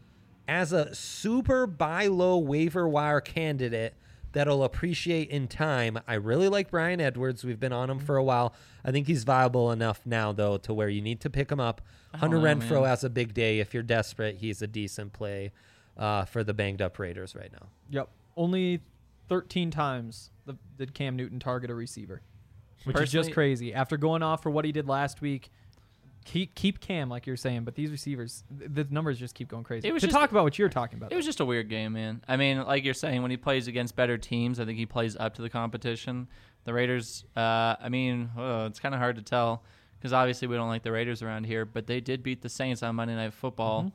S1: as a super buy low waiver wire candidate that'll appreciate in time, I really like Bryan Edwards. We've been on him for a while. I think he's viable enough now, though, to where you need to pick him up. Hunter
S3: know,
S1: Renfro
S3: man.
S1: has a big day. If you're desperate, he's a decent play for the banged up Raiders right now.
S2: Yep. Only 13 times did Cam Newton target a receiver, which is just
S3: Personally-
S2: crazy. After going off for what he did last week, keep Cam like you're saying, but these receivers, the numbers just keep going crazy.
S3: It was
S2: To
S3: just-
S2: talk about what you're talking about,
S3: It was just a weird game, man. I mean, like you're saying, when he plays against better teams, I think he plays up to the competition. The Raiders, it's kind of hard to tell because obviously we don't like the Raiders around here, but they did beat the Saints on Monday Night Football.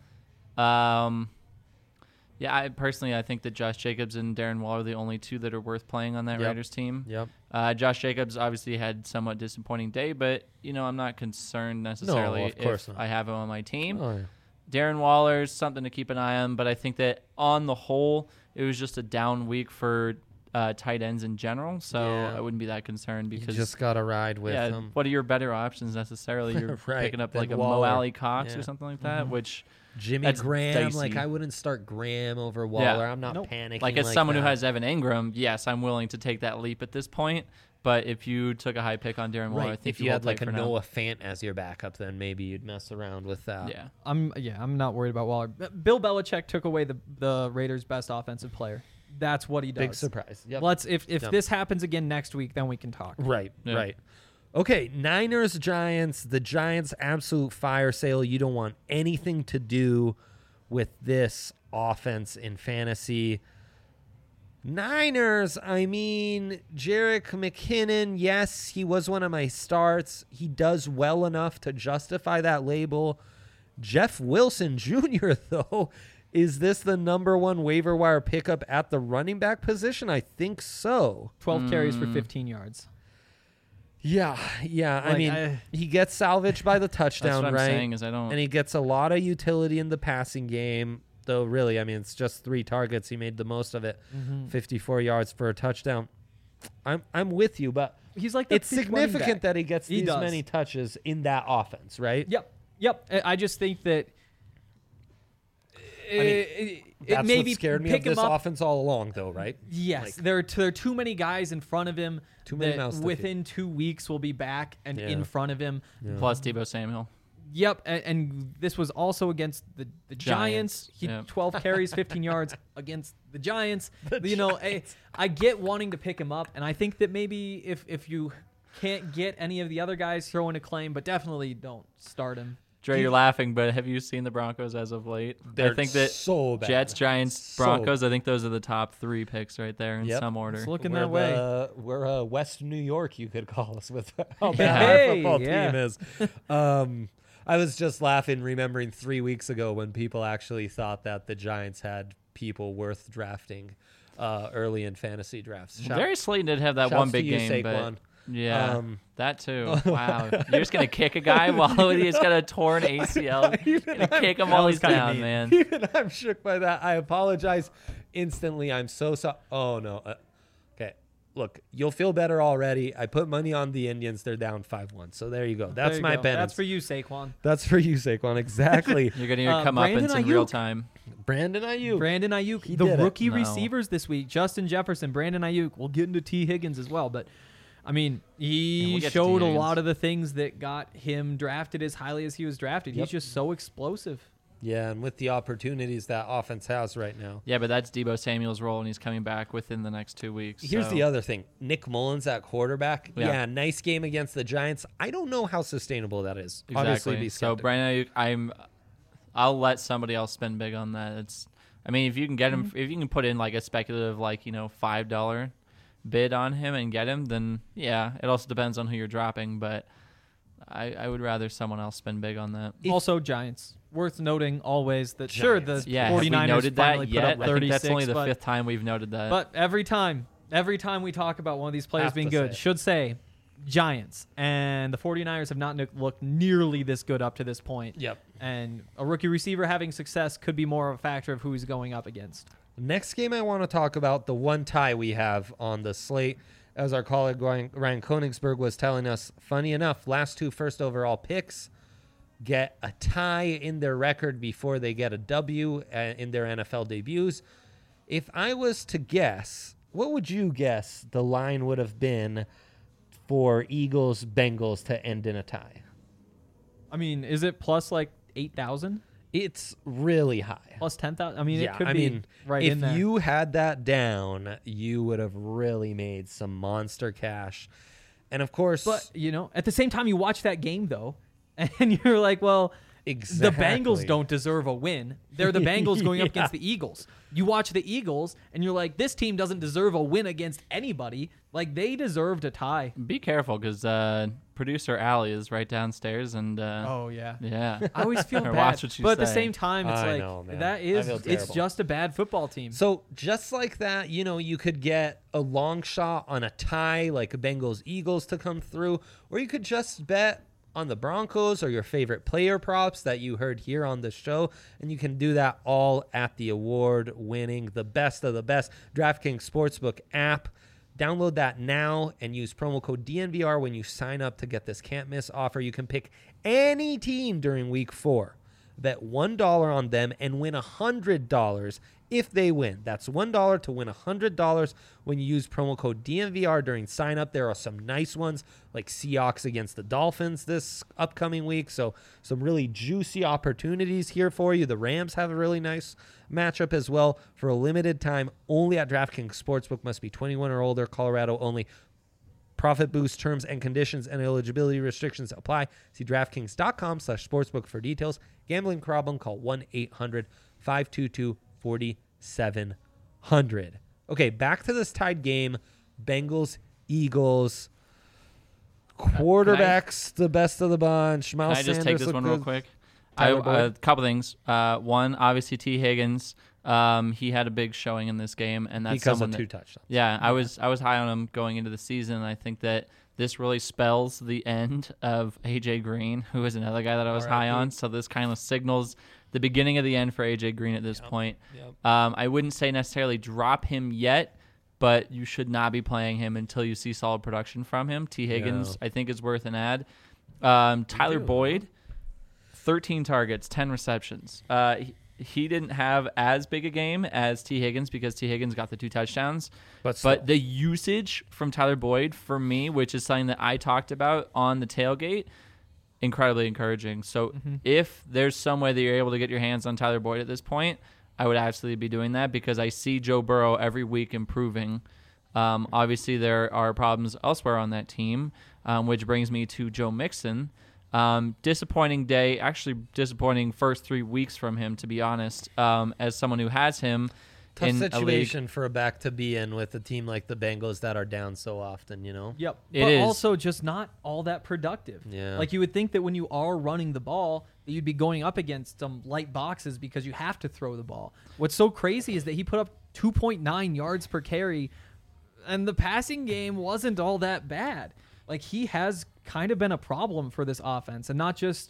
S3: I think that Josh Jacobs and Darren Waller are the only two that are worth playing on that
S1: Yep.
S3: Raiders team.
S1: Yep.
S3: Josh Jacobs obviously had somewhat disappointing day, but I'm not concerned necessarily
S1: of course
S3: if
S1: not.
S3: I have him on my team.
S1: Oh, yeah.
S3: Darren Waller's something to keep an eye on, but I think that on the whole, it was just a down week for tight ends in general, so
S1: Yeah.
S3: I wouldn't be that concerned
S1: You
S3: because
S1: just got to ride with
S3: yeah,
S1: them.
S3: what are your better options necessarily? You're
S1: Right,
S3: picking up
S1: than
S3: like a
S1: Waller.
S3: Mo Alley Cox
S1: Yeah.
S3: or something like that, which
S1: Jimmy
S3: that's
S1: Graham,
S3: dicey.
S1: like I wouldn't start Graham over Waller. I'm not
S2: Nope.
S1: panicking.
S3: like as someone
S1: that.
S3: who has Evan Ingram, yes, I'm willing to take that leap at this point. But if you took a high pick on Darren Waller, I
S1: right.
S3: think
S1: If you
S3: will
S1: had like
S3: play
S1: a
S3: for now.
S1: Noah Fant as your backup, then maybe you'd mess around with that.
S3: Yeah.
S2: I'm not worried about Waller. Bill Belichick took away the Raiders' best offensive player. That's what he does.
S1: Big surprise. Yep.
S2: Let's if
S1: Yep.
S2: this happens again next week, then we can talk.
S1: Right,
S3: Yeah.
S1: right. Okay, Niners, Giants. The Giants absolute fire sale. You don't want anything to do with this offense in fantasy. Niners, I mean, Jerick McKinnon, yes, he was one of my starts. He does well enough to justify that label. Jeff Wilson Jr., though, is this the number one waiver wire pickup at the running back position? I think so.
S2: 12 carries for 15 yards.
S1: Yeah. I
S2: Like,
S1: mean, he gets salvaged by the
S3: That's
S1: touchdown,
S3: what I'm
S1: right?
S3: saying is I don't.
S1: And he gets a lot of utility in the passing game, though really, I mean, it's just 3 targets. He made the most of it. 54 yards for a touchdown. I'm with you, but
S2: He's like the
S1: it's
S2: peak running
S1: significant
S2: back.
S1: that he gets
S2: He
S1: these
S2: does.
S1: many touches in that offense, right?
S2: Yep. I just think that it
S1: That's
S2: maybe
S1: what scared me
S2: pick
S1: of this
S2: him up.
S1: offense all along, though, right?
S2: Yes,
S1: Like-
S2: there are too many guys in front of him.
S1: Too many
S2: that
S1: mouths to feed.
S2: within 2 weeks will be back and
S1: Yeah.
S2: in front of him.
S3: Plus Deebo Samuel.
S2: Yep, and this was also against the Giants. He
S3: Yep.
S2: 12 carries, 15 yards against the Giants. I get wanting to pick him up, and I think that maybe if you can't get any of the other guys, throw in a claim, but definitely don't start him.
S3: Dre, you're laughing, but have you seen the Broncos as of late?
S1: They're
S3: I think that
S1: so bad.
S3: Jets, Giants,
S1: So
S3: Broncos, I think those are the top 3 picks right there in
S1: Yep.
S3: some order.
S2: It's looking
S1: We're
S2: that way.
S1: We're West New York, you could call us, with how bad
S2: Hey,
S1: our football
S2: yeah.
S1: team is. I was just laughing, remembering 3 weeks ago when people actually thought that the Giants had people worth drafting early in fantasy drafts.
S3: Darius Slayton did have that
S1: shouts
S3: one
S1: to
S3: big
S1: you,
S3: game,
S1: Saquon.
S3: but yeah,
S1: Um,
S3: that too. Wow, you're just gonna kick a guy while he's got a torn ACL. You're gonna kick him while he's down, man.
S1: Even I'm shook by that. I apologize instantly. I'm so sorry. Oh, no. Okay. Look, you'll feel better already. I put money on the Indians. They're down 5-1. So there you go. That's
S2: There you
S1: my
S2: go.
S1: penance.
S2: That's for you, Saquon.
S1: That's for you, Saquon. Exactly.
S3: You're gonna come up
S2: Brandon
S3: in real
S2: Ayuk.
S3: time.
S1: Brandon Ayuk.
S2: Brandon Ayuk,
S1: He
S2: the
S1: did it.
S2: rookie
S3: No.
S2: receivers this week: Justin Jefferson, Brandon Ayuk. We'll get into T. Higgins as well, but I mean, he
S3: we'll get to
S2: showed
S3: T.
S2: a
S3: Higgins.
S2: lot of the things that got him drafted as highly as he was drafted.
S1: Yep.
S2: He's just so explosive.
S1: Yeah, and with the opportunities that offense has right now.
S3: Yeah, but that's Deebo Samuel's role, and he's coming back within the next 2 weeks.
S1: Here's
S3: so.
S1: the other thing. Nick Mullins at quarterback.
S3: Yeah.
S1: Yeah, nice game against the Giants. I don't know how sustainable that is.
S3: Exactly.
S1: Obviously, be
S3: So
S1: skeptical.
S3: Brandon Ayuk, I'll let somebody else spend big on that. I mean, if you can get him, if you can put in like a speculative, like $5 bid on him and get him, then yeah, it also depends on who you're dropping. But I would rather someone else spend big on that.
S2: Also, Giants. Worth noting always that sure the
S1: Giants.
S3: Yeah, have we
S2: 49ers
S3: noted
S2: finally
S3: that
S2: put
S3: yet?
S2: up
S3: I
S2: 36,
S3: think that's only the
S2: but,
S3: 5th time we've noted that.
S2: but every time we talk about one of these players
S1: Have
S2: being
S1: to
S2: good,
S1: say it.
S2: should say Giants, and the 49ers have not looked nearly this good up to this point.
S1: Yep.
S2: And a rookie receiver having success could be more of a factor of who he's going up against.
S1: Next game I want to talk about, the one tie we have on the slate. As our colleague Ryan Koenigsberg was telling us, funny enough, last 2 first overall picks get a tie in their record before they get a W in their NFL debuts. If I was to guess, what would you guess the line would have been for Eagles-Bengals to end in a tie?
S2: I mean, is it plus like 8,000?
S1: It's really high.
S2: Plus 10,000? I mean,
S1: Yeah,
S2: it could
S1: I
S2: be
S1: mean,
S2: right
S1: if
S2: in there.
S1: you had that down, you would have really made some monster cash. And of course,
S2: But, at the same time, you watch that game, though, And you're like, well,
S1: Exactly.
S2: the Bengals don't deserve a win. They're the Bengals going up against the Eagles. You watch the Eagles, and you're like, this team doesn't deserve a win against anybody. Like, they deserved a tie.
S3: Be careful, because producer Allie is right downstairs, and
S2: Oh, yeah.
S3: yeah.
S2: I always feel
S3: Or
S2: bad.
S3: watch what you
S2: but at the
S3: say.
S2: same time, it's
S1: I
S2: like,
S1: know, man.
S2: that
S1: I
S2: is,
S1: feel
S2: it's
S1: terrible.
S2: just a bad football team.
S1: So just like that, you could get a long shot on a tie, like a Bengals-Eagles to come through, or you could just bet on the Broncos or your favorite player props that you heard here on the show, and you can do that all at the award-winning, the best of the best DraftKings Sportsbook app. Download that now and use promo code DNVR when you sign up to get this can't-miss offer. You can pick any team during Week 4. Bet $1 on them and win $100 if they win. That's $1 to win $100 when you use promo code DNVR during sign up. There are some nice ones like Seahawks against the Dolphins this upcoming week. So some really juicy opportunities here for you. The Rams have a really nice matchup as well. For a limited time only at DraftKings Sportsbook. Must be 21 or older. Colorado only. Profit boost terms and conditions and eligibility restrictions apply. See DraftKings.com/sportsbook for details. Gambling problem, call 1-800-522-4700. Okay, back to this tied game. Bengals, Eagles. Quarterbacks, the best of the bunch. Miles
S3: Can I just
S1: Sanders
S3: take this
S1: looked
S3: one real
S1: good.
S3: quick?
S1: Tyler
S3: A
S1: Boyd?
S3: couple things. One, obviously T. Higgins. He had a big showing in this game, and that's
S1: Because
S3: someone
S1: of
S3: that,
S1: 2 touchdowns.
S3: Yeah, I was high on him going into the season. And I think that this really spells the end of AJ Green, who is another guy that I was high
S1: RIP.
S3: on. So this kind of signals the beginning of the end for AJ Green at this point.
S1: Yep.
S3: I wouldn't say necessarily drop him yet, but you should not be playing him until you see solid production from him. T. Higgins, I think, is worth an ad. Tyler Boyd, 13 targets, 10 receptions. He didn't have as big a game as T. Higgins because T. Higgins got the 2 touchdowns.
S1: But still.
S3: But the usage from Tyler Boyd, for me, which is something that I talked about on the tailgate, incredibly encouraging. So if there's some way that you're able to get your hands on Tyler Boyd at this point, I would absolutely be doing that because I see Joe Burrow every week improving. Obviously, there are problems elsewhere on that team, which brings me to Joe Mixon. Disappointing day, actually disappointing first 3 weeks from him, to be honest, as someone who has him
S1: Tough
S3: in a league.
S1: situation for a back to be in with a team like the Bengals that are down so often,
S2: Yep.
S3: It
S2: but
S3: is.
S2: also just not all that productive.
S1: Yeah.
S2: Like you would think that when you are running the ball, that you'd be going up against some light boxes because you have to throw the ball. What's so crazy is that he put up 2.9 yards per carry, and the passing game wasn't all that bad. Like he has kind of been a problem for this offense, and not just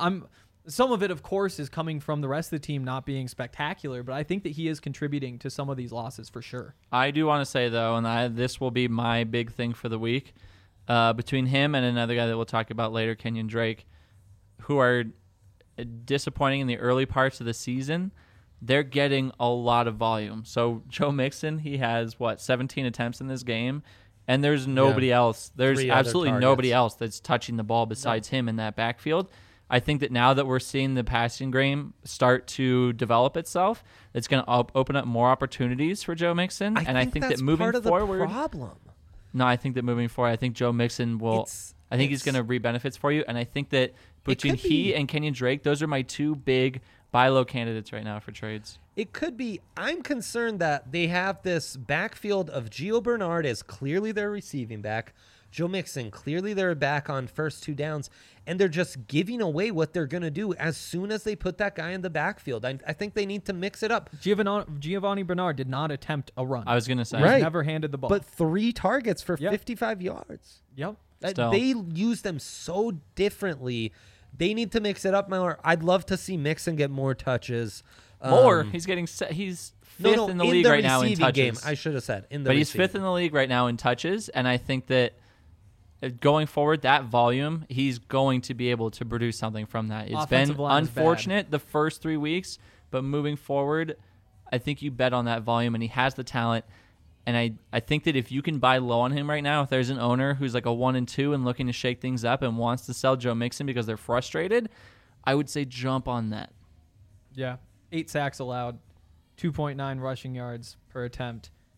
S2: some of it, of course, is coming from the rest of the team not being spectacular, but I think that he is contributing to some of these losses for sure.
S3: I do want to say, though, and this will be my big thing for the week, between him and another guy that we'll talk about later, Kenyon Drake, who are disappointing in the early parts of the season, they're getting a lot of volume. So Joe Mixon, he has, 17 attempts in this game, and there's nobody else. There's
S1: 3 other
S3: absolutely
S1: targets.
S3: nobody else that's touching the ball besides him in that backfield. I think that now that we're seeing the passing game start to develop itself, it's going to open up more opportunities for Joe Mixon. I think
S1: that's
S3: that moving
S1: part of
S3: forward,
S1: the problem.
S3: no, I think that moving forward, I think Joe Mixon will. I think he's going to reap benefits for you, and I think that between
S1: could
S3: he
S1: be.
S3: and Kenyon Drake, those are my 2 big buy low candidates right now for trades.
S1: It could be. I'm concerned that they have this backfield of Gio Bernard as clearly their receiving back, Joe Mixon clearly they're back on first 2 downs, and they're just giving away what they're going to do as soon as they put that guy in the backfield. I think they need to mix it up.
S2: Giovanni Bernard did not attempt a run.
S3: I was going to say.
S2: He's
S1: Right.
S2: never handed the ball.
S1: But 3 targets for
S2: Yep.
S1: 55 yards.
S2: Yep.
S3: Still.
S1: They use them so differently. They need to mix it up more. I'd love to see Mixon get more touches.
S3: More. He's getting. He's fifth in the league right now in
S1: receiving
S3: touches.
S1: game. I should have said in the.
S3: But he's
S1: receiving.
S3: 5th in the league right now in touches, and I think that going forward, that volume, he's going to be able to produce something from that. It's
S2: Offensive
S3: been
S2: line is bad.
S3: unfortunate the first 3 weeks, but moving forward, I think you bet on that volume, and he has the talent. And I think that if you can buy low on him right now, if there's an owner who's like a 1 and 2 and looking to shake things up and wants to sell Joe Mixon because they're frustrated, I would say jump on that.
S2: Yeah. 8 sacks allowed, 2.9 rushing yards per attempt.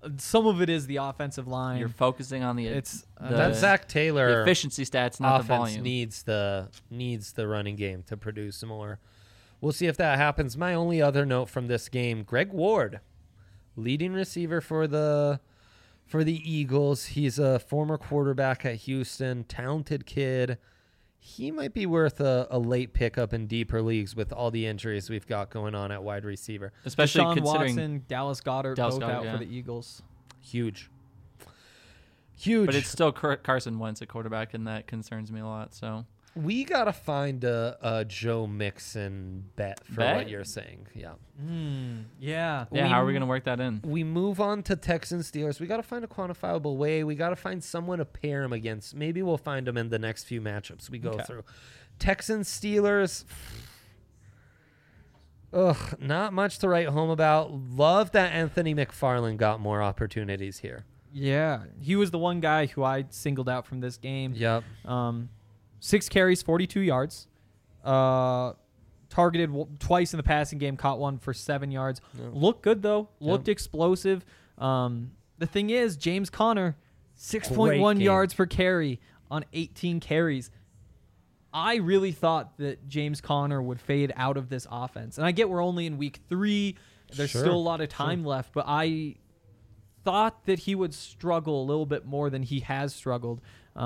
S2: some of it is the offensive line.
S3: You're focusing on the
S1: that Zach Taylor
S3: the efficiency stats, not the
S1: offense
S3: volume.
S1: needs the running game to produce more. We'll see if that happens. My only other note from this game: Greg Ward, leading receiver for the Eagles. He's a former quarterback at Houston, talented kid. He might be worth a late pickup in deeper leagues with all the injuries we've got going on at wide receiver.
S3: Especially
S2: Deshaun
S3: considering
S2: Watson, Dallas Goedert, both out for the Eagles.
S1: Huge.
S3: But it's still Carson Wentz at quarterback, and that concerns me a lot. So
S1: we got to find a Joe Mixon bet for what you're saying. Yeah.
S2: Yeah.
S3: Yeah, how are we going to work that in?
S1: We move on to Texans Steelers. We got to find a quantifiable way. We got to find someone to pair him against. Maybe we'll find him in the next few matchups we go through. Texans Steelers. Ugh, not much to write home about. Love that Anthony McFarland got more opportunities here.
S2: Yeah. He was the one guy who I singled out from this game.
S1: Yep.
S2: 6 carries, 42 yards. Targeted twice in the passing game, caught one for 7 yards.
S1: Yep.
S2: Looked good, though. Looked explosive. The thing is, James Conner, 6.1 yards per carry on 18 carries. I really thought that James Conner would fade out of this offense. And I get we're only in week 3. There's still a lot of time left. But I thought that he would struggle a little bit more than he has struggled.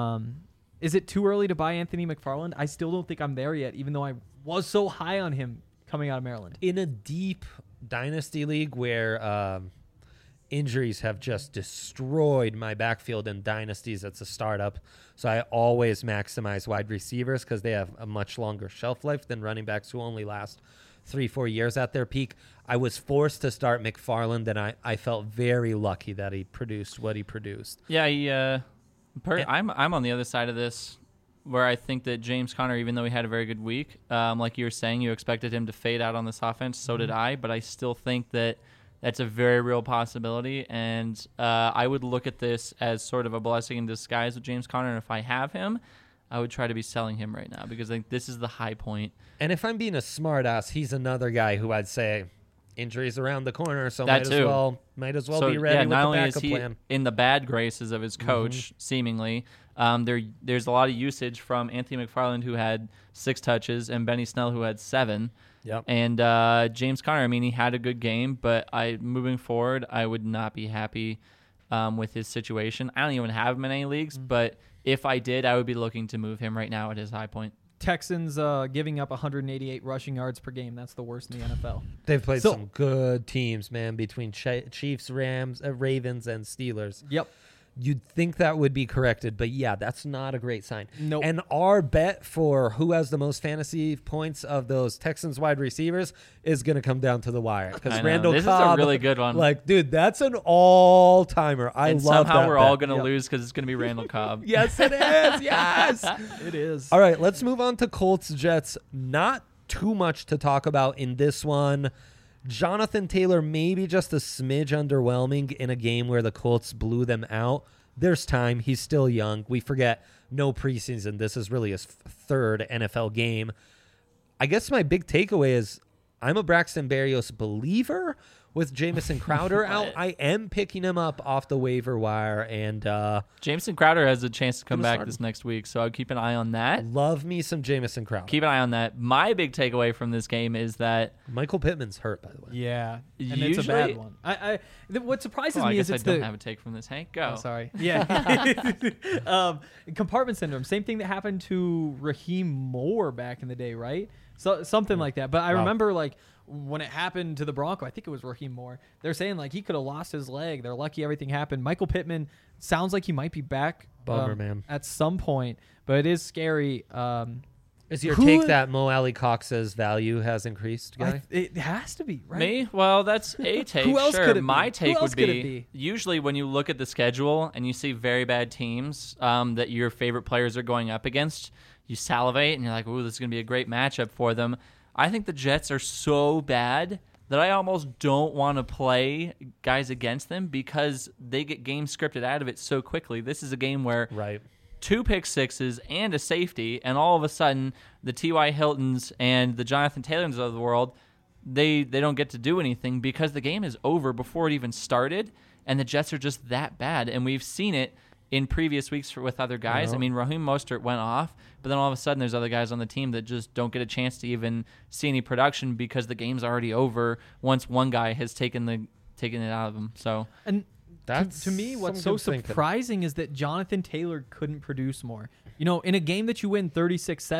S2: Is it too early to buy Anthony McFarland? I still don't think I'm there yet, even though I was so high on him coming out of Maryland.
S1: In a deep dynasty league where injuries have just destroyed my backfield in dynasties, it's a startup. So I always maximize wide receivers because they have a much longer shelf life than running backs who only last 3-4 years at their peak. I was forced to start McFarland, and I felt very lucky that he produced what he produced.
S3: Yeah, I'm on the other side of this, where I think that James Conner, even though he had a very good week, like you were saying, you expected him to fade out on this offense. So did I, but I still think that that's a very real possibility, and I would look at this as sort of a blessing in disguise with James Conner, and if I have him, I would try to be selling him right now because I think this is the high point.
S1: And if I'm being a smart ass, he's another guy who I'd say injuries around the corner, so
S3: might
S1: as well be ready with
S3: not
S1: the
S3: only
S1: backup
S3: is he
S1: plan.
S3: in the bad graces of his coach, seemingly, there's a lot of usage from Anthony McFarland, who had 6 touches, and Benny Snell, who had 7.
S1: Yep.
S3: And James Conner, I mean, he had a good game, but moving forward, I would not be happy with his situation. I don't even have him in any leagues, but if I did, I would be looking to move him right now at his high point.
S2: Texans giving up 188 rushing yards per game. That's the worst in the NFL.
S1: They've played some good teams, man, between Chiefs, Rams, Ravens, and Steelers.
S2: Yep.
S1: You'd think that would be corrected, but yeah, that's not a great sign.
S2: Nope.
S1: And our bet for who has the most fantasy points of those Texans wide receivers is going to come down to the wire. Because Randall
S3: this
S1: Cobb,
S3: is a really good one.
S1: Like, dude, that's an all-timer. I
S3: and
S1: love that.
S3: Somehow we're all
S1: bet.
S3: going to lose because it's going to be Randall Cobb.
S1: Yes, it is. Yes.
S2: It is.
S1: All right, let's move on to Colts Jets. Not too much to talk about in this one. Jonathan Taylor maybe just a smidge underwhelming in a game where the Colts blew them out. There's time. He's still young. We forget no preseason. This is really his 3rd NFL game. I guess my big takeaway is I'm a Braxton Berrios believer with Jamison Crowder out. I am picking him up off the waiver wire, and
S3: Jamison Crowder has a chance to come back
S1: start.
S3: this next week, so I'd keep an eye on that.
S1: love me some Jamison Crowder.
S3: Keep an eye on that. My big takeaway from this game is that
S1: Michael Pittman's hurt, by the way.
S2: Yeah, and
S3: Usually-
S2: it's a bad one. What surprises
S3: I
S2: me
S3: guess
S2: is
S3: I
S2: it's
S3: don't
S2: the
S3: have a take from this. Hank, go.
S2: Oh, sorry. Yeah. Compartment syndrome. Same thing that happened to Raheem Moore back in the day, right? So something like that. But I remember like when it happened to the Bronco, I think it was Raheem Moore. They're saying like he could have lost his leg. They're lucky everything happened. Michael Pittman sounds like he might be back
S1: Bummer, man.
S2: at some point, but it is scary.
S1: Is your take that Mo Alley Cox's value has increased, guy?
S2: It has to be, right?
S3: Me? Well, that's a take.
S2: Who else
S3: sure.
S2: could it be?
S3: My
S2: Who
S3: take
S2: else
S3: would
S2: could it
S3: be
S2: be?
S3: usually when you look at the schedule and you see very bad teams that your favorite players are going up against, you salivate and you're like, ooh, this is going to be a great matchup for them. I think the Jets are so bad that I almost don't want to play guys against them because they get game scripted out of it so quickly. This is a game where
S1: Right.
S3: 2 pick sixes and a safety, and all of a sudden the T.Y. Hiltons and the Jonathan Taylors of the world, they don't get to do anything because the game is over before it even started, and the Jets are just that bad. And we've seen it in previous weeks with other guys. I mean, Raheem Mostert went off, but then all of a sudden there's other guys on the team that just don't get a chance to even see any production because the game's already over once one guy has taken it out of them. So
S2: and
S1: That's
S2: to me, what's so
S1: some good thinking.
S2: surprising is that Jonathan Taylor couldn't produce more. You know, in a game that you win 36-7,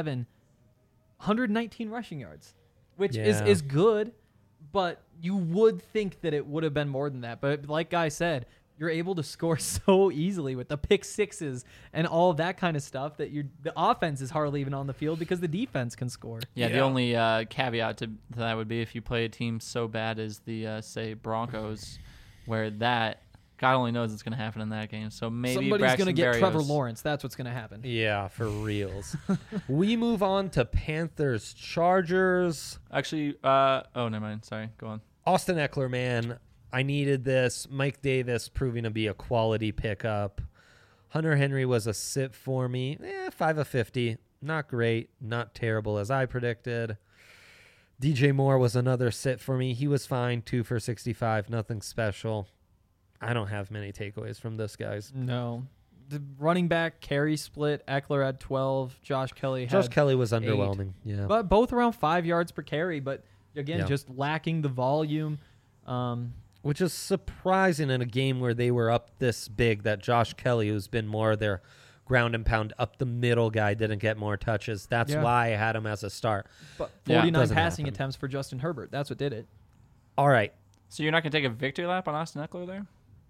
S2: 119 rushing yards, which is good, but you would think that it would have been more than that. But like Guy said, you're able to score so easily with the pick sixes and all of that kind of stuff that the offense is hardly even on the field because the defense can score.
S3: Yeah, the only caveat to that would be if you play a team so bad as the, say, Broncos, where that, God only knows what's going to happen in that game. So maybe
S2: somebody's going to get
S3: Berrios.
S2: Trevor Lawrence. That's what's going to happen.
S1: Yeah, for reals. We move on to Panthers Chargers.
S3: Actually, never mind. Sorry, go on.
S1: Austin Eckler, man, I needed this. Mike Davis proving to be a quality pickup. Hunter Henry was a sit for me. 5 of 50. Not great. Not terrible as I predicted. DJ Moore was another sit for me. He was fine. 2 for 65. Nothing special. I don't have many takeaways from this, guys.
S2: No. The running back carry split. Eckler had 12. Josh Kelly
S1: was
S2: 8.
S1: underwhelming. Yeah.
S2: But both around 5 yards per carry. But again,
S1: Yeah.
S2: just lacking the volume.
S1: Which is surprising in a game where they were up this big that Josh Kelly, who's been more their ground and pound up the middle guy, didn't get more touches. That's why I had him as a start.
S2: But
S3: Yeah.
S2: 49
S1: Doesn't
S2: passing
S1: happen.
S2: attempts for Justin Herbert. That's what did it.
S1: All right.
S3: So you're not going to take a victory lap on Austin Eckler there?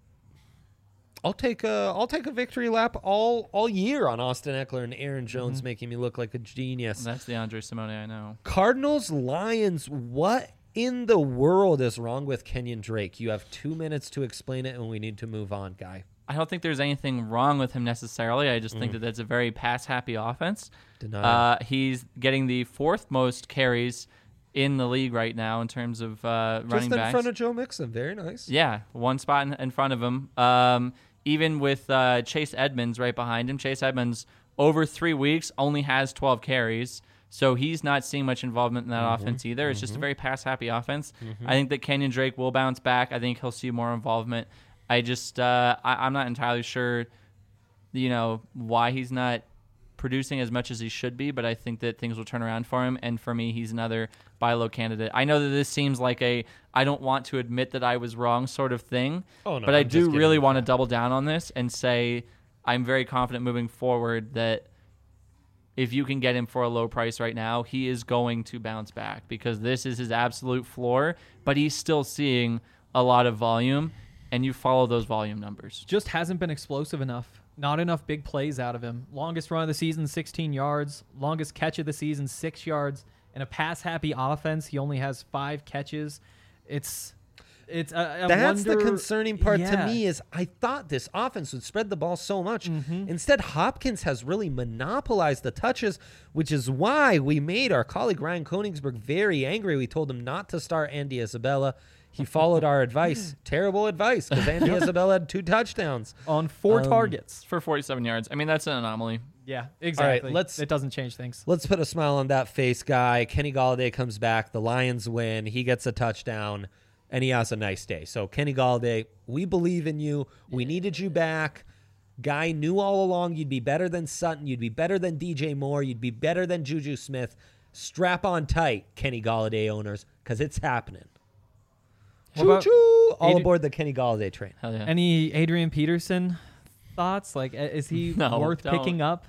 S1: I'll take a victory lap all year on Austin Eckler and Aaron Jones making me look like a genius.
S3: That's the Andre Simone I know.
S1: Cardinals Lions, what in the world is wrong with Kenyon Drake? You have 2 minutes to explain it and we need to move on, Guy.
S3: I don't think there's anything wrong with him necessarily. I just think that that's a very pass-happy offense.
S1: Denied.
S3: He's getting the 4th most carries in the league right now in terms of running
S1: Just in
S3: backs.
S1: front of Joe Mixon. Very nice.
S3: Yeah, one spot in front of him. Even with Chase Edmonds right behind him. Chase Edmonds, over 3 weeks, only has 12 carries. So he's not seeing much involvement in that offense either. It's just a very pass-happy offense. I think that Kenyon Drake will bounce back. I think he'll see more involvement. I just I'm not entirely sure, why he's not producing as much as he should be, but I think that things will turn around for him. And for me, he's another buy low candidate. I know that this seems like I don't want to admit that I was wrong sort of thing, but I do really want to double down on this and say I'm very confident moving forward that if you can get him for a low price right now, he is going to bounce back because this is his absolute floor, but he's still seeing a lot of volume, and you follow those volume numbers.
S2: Just hasn't been explosive enough. Not enough big plays out of him. Longest run of the season, 16 yards. Longest catch of the season, 6 yards. In a pass-happy offense, he only has 5 catches. It's
S1: That's the concerning part to
S2: Yeah.
S1: me is I thought this offense would spread the ball so much. Instead, Hopkins has really monopolized the touches, which is why we made our colleague Ryan Koenigsberg very angry. We told him not to start Andy Isabella. He followed our advice. Terrible advice because Andy Isabella had 2 touchdowns.
S2: on 4 targets.
S3: For 47 yards. I mean, that's an anomaly.
S2: Yeah, exactly.
S1: let's-
S2: it doesn't change things.
S1: Let's put a smile on that face, Guy. Kenny Galladay comes back. The Lions win. He gets a touchdown, and he has a nice day. So, Kenny Galladay, we believe in you. We needed you back. Guy knew all along you'd be better than Sutton. You'd be better than DJ Moore. You'd be better than Juju Smith. Strap on tight, Kenny Galladay owners, because it's happening.
S2: What about
S1: Choo-choo! All
S2: Adri-
S1: aboard the Kenny Galladay train.
S3: Hell yeah.
S2: Any Adrian Peterson thoughts? Like, is he
S3: No,
S2: worth
S3: don't.
S2: picking up?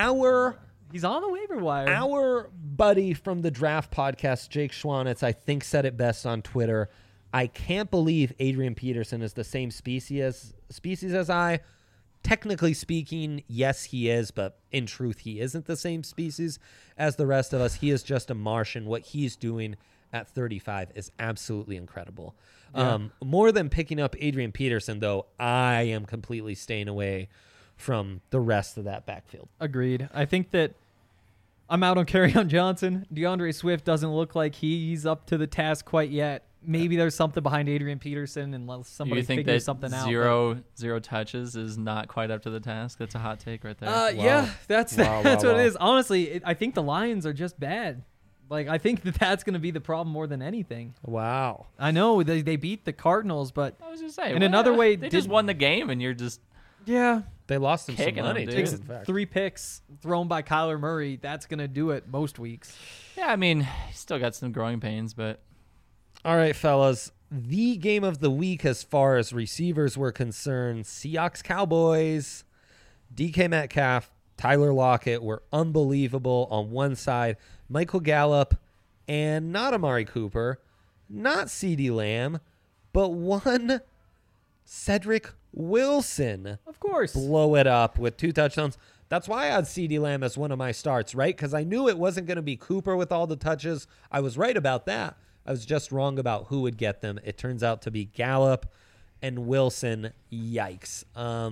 S1: He's
S2: on the waiver wire.
S1: Our buddy from the Draft Podcast, Jake Schwanitz, I think said it best on Twitter. I can't believe Adrian Peterson is the same species as I. Technically speaking, yes, he is, but in truth, he isn't the same species as the rest of us. He is just a Martian. What he's doing at 35 is absolutely incredible.
S2: Yeah.
S1: More than picking up Adrian Peterson, though, I am completely staying away from the rest of that backfield.
S2: Agreed. I think that I'm out on Kerryon Johnson. DeAndre Swift doesn't look like he's up to the task quite yet. Maybe there's something behind Adrian Peterson unless somebody
S3: You think
S2: figures
S3: that
S2: something out.
S3: zero touches is not quite up to the task? That's a hot take right there.
S2: Yeah, that's
S1: Wow,
S2: that's
S1: wow,
S2: what
S1: wow.
S2: it is. Honestly, I think the Lions are just bad. Like, I think that's going to be the problem more than anything.
S1: Wow.
S2: I know they beat the Cardinals, but
S3: I was just saying.
S2: in another way,
S3: they just won the game, and you're just
S1: They lost him some
S3: Kicking
S1: money,
S3: him,
S1: too,
S3: dude.
S1: in fact.
S2: 3 picks thrown by Kyler Murray. That's going to do it most weeks.
S3: yeah. I mean, he's still got some growing pains, but
S1: All right, fellas. The game of the week as far as receivers were concerned, Seahawks Cowboys. DK Metcalf, Tyler Lockett were unbelievable on one side. Michael Gallup and not Amari Cooper, not CeeDee Lamb, but one Cedric Wilson
S2: Of course.
S1: blow it up with 2 touchdowns. That's why I had CeeDee Lamb as one of my starts, right? Because I knew it wasn't going to be Cooper with all the touches. I was right about that. I was just wrong about who would get them. It turns out to be Gallup and Wilson. Yikes.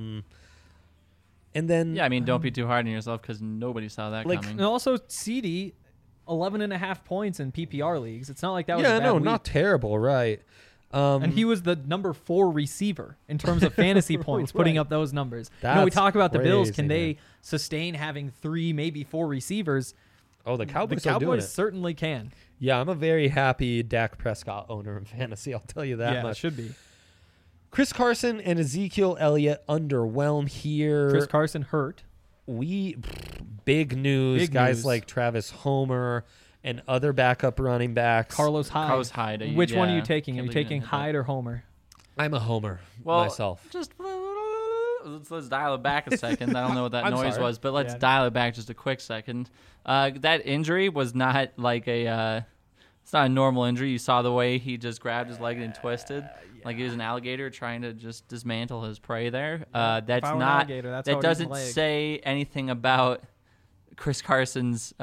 S1: And then
S3: yeah. I mean, don't be too hard on yourself because nobody saw that
S1: Like,
S3: coming.
S2: And also, CD, 11.5 points in PPR leagues. It's not like that was
S1: yeah,
S2: a bad
S1: no,
S2: week.
S1: not terrible, right?
S2: And he was the number 4 receiver in terms of fantasy points, putting
S1: Right.
S2: up those numbers. We talk about the Bills. Can
S1: crazy,
S2: they sustain having 3, maybe 4 receivers?
S1: Oh, the Cowboys,
S2: The
S1: are doing
S2: Cowboys
S1: it.
S2: certainly can.
S1: Yeah, I'm a very happy Dak Prescott owner in fantasy. I'll tell you that
S2: Yeah, it
S1: much.
S2: should be.
S1: Chris Carson and Ezekiel Elliott underwhelm here.
S2: Chris Carson hurt.
S1: Big news.
S2: Big
S1: Guys
S2: news.
S1: like Travis Homer and other backup running backs.
S2: Carlos Hyde.
S3: Carlos Hyde.
S2: Which one are you
S3: yeah,
S2: taking? Are
S3: can't
S2: you
S3: believe you
S2: taking
S3: didn't hit that.
S2: Hyde or Homer?
S1: I'm a homer
S3: Well,
S1: myself.
S3: Just let's dial it back a second. I don't know what that
S1: I'm
S3: noise
S1: sorry.
S3: was, but let's
S2: Yeah.
S3: dial it back just a quick second. That injury was not like it's not a normal injury. You saw the way he just grabbed his leg and twisted, like he was an alligator trying to just dismantle his prey there.
S2: If I
S3: That's
S2: were an
S3: not.
S2: alligator, that's how
S3: That
S2: I'd eat my
S3: doesn't
S2: leg.
S3: say anything about Chris Carson's,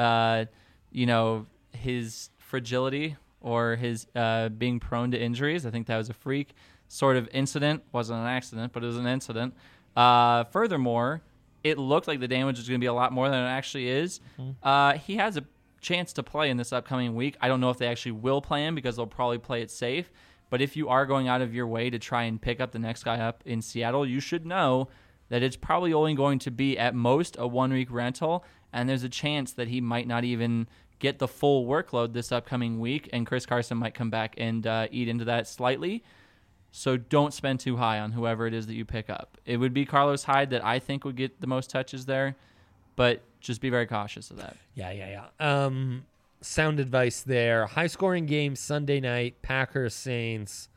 S3: his fragility or his being prone to injuries. I think that was a freak sort of incident. Wasn't an accident, but it was an incident. Furthermore, it looked like the damage was going to be a lot more than it actually is. He has a chance to play in this upcoming week. I don't know if they actually will play him because they'll probably play it safe. But if you are going out of your way to try and pick up the next guy up in Seattle, you should know that it's probably only going to be at most a 1-week rental, and there's a chance that he might not even get the full workload this upcoming week, and Chris Carson might come back and eat into that slightly. So don't spend too high on whoever it is that you pick up. It would be Carlos Hyde that I think would get the most touches there, but just be very cautious of that.
S1: Yeah. Sound advice there. High scoring game Sunday night, Packers Saints.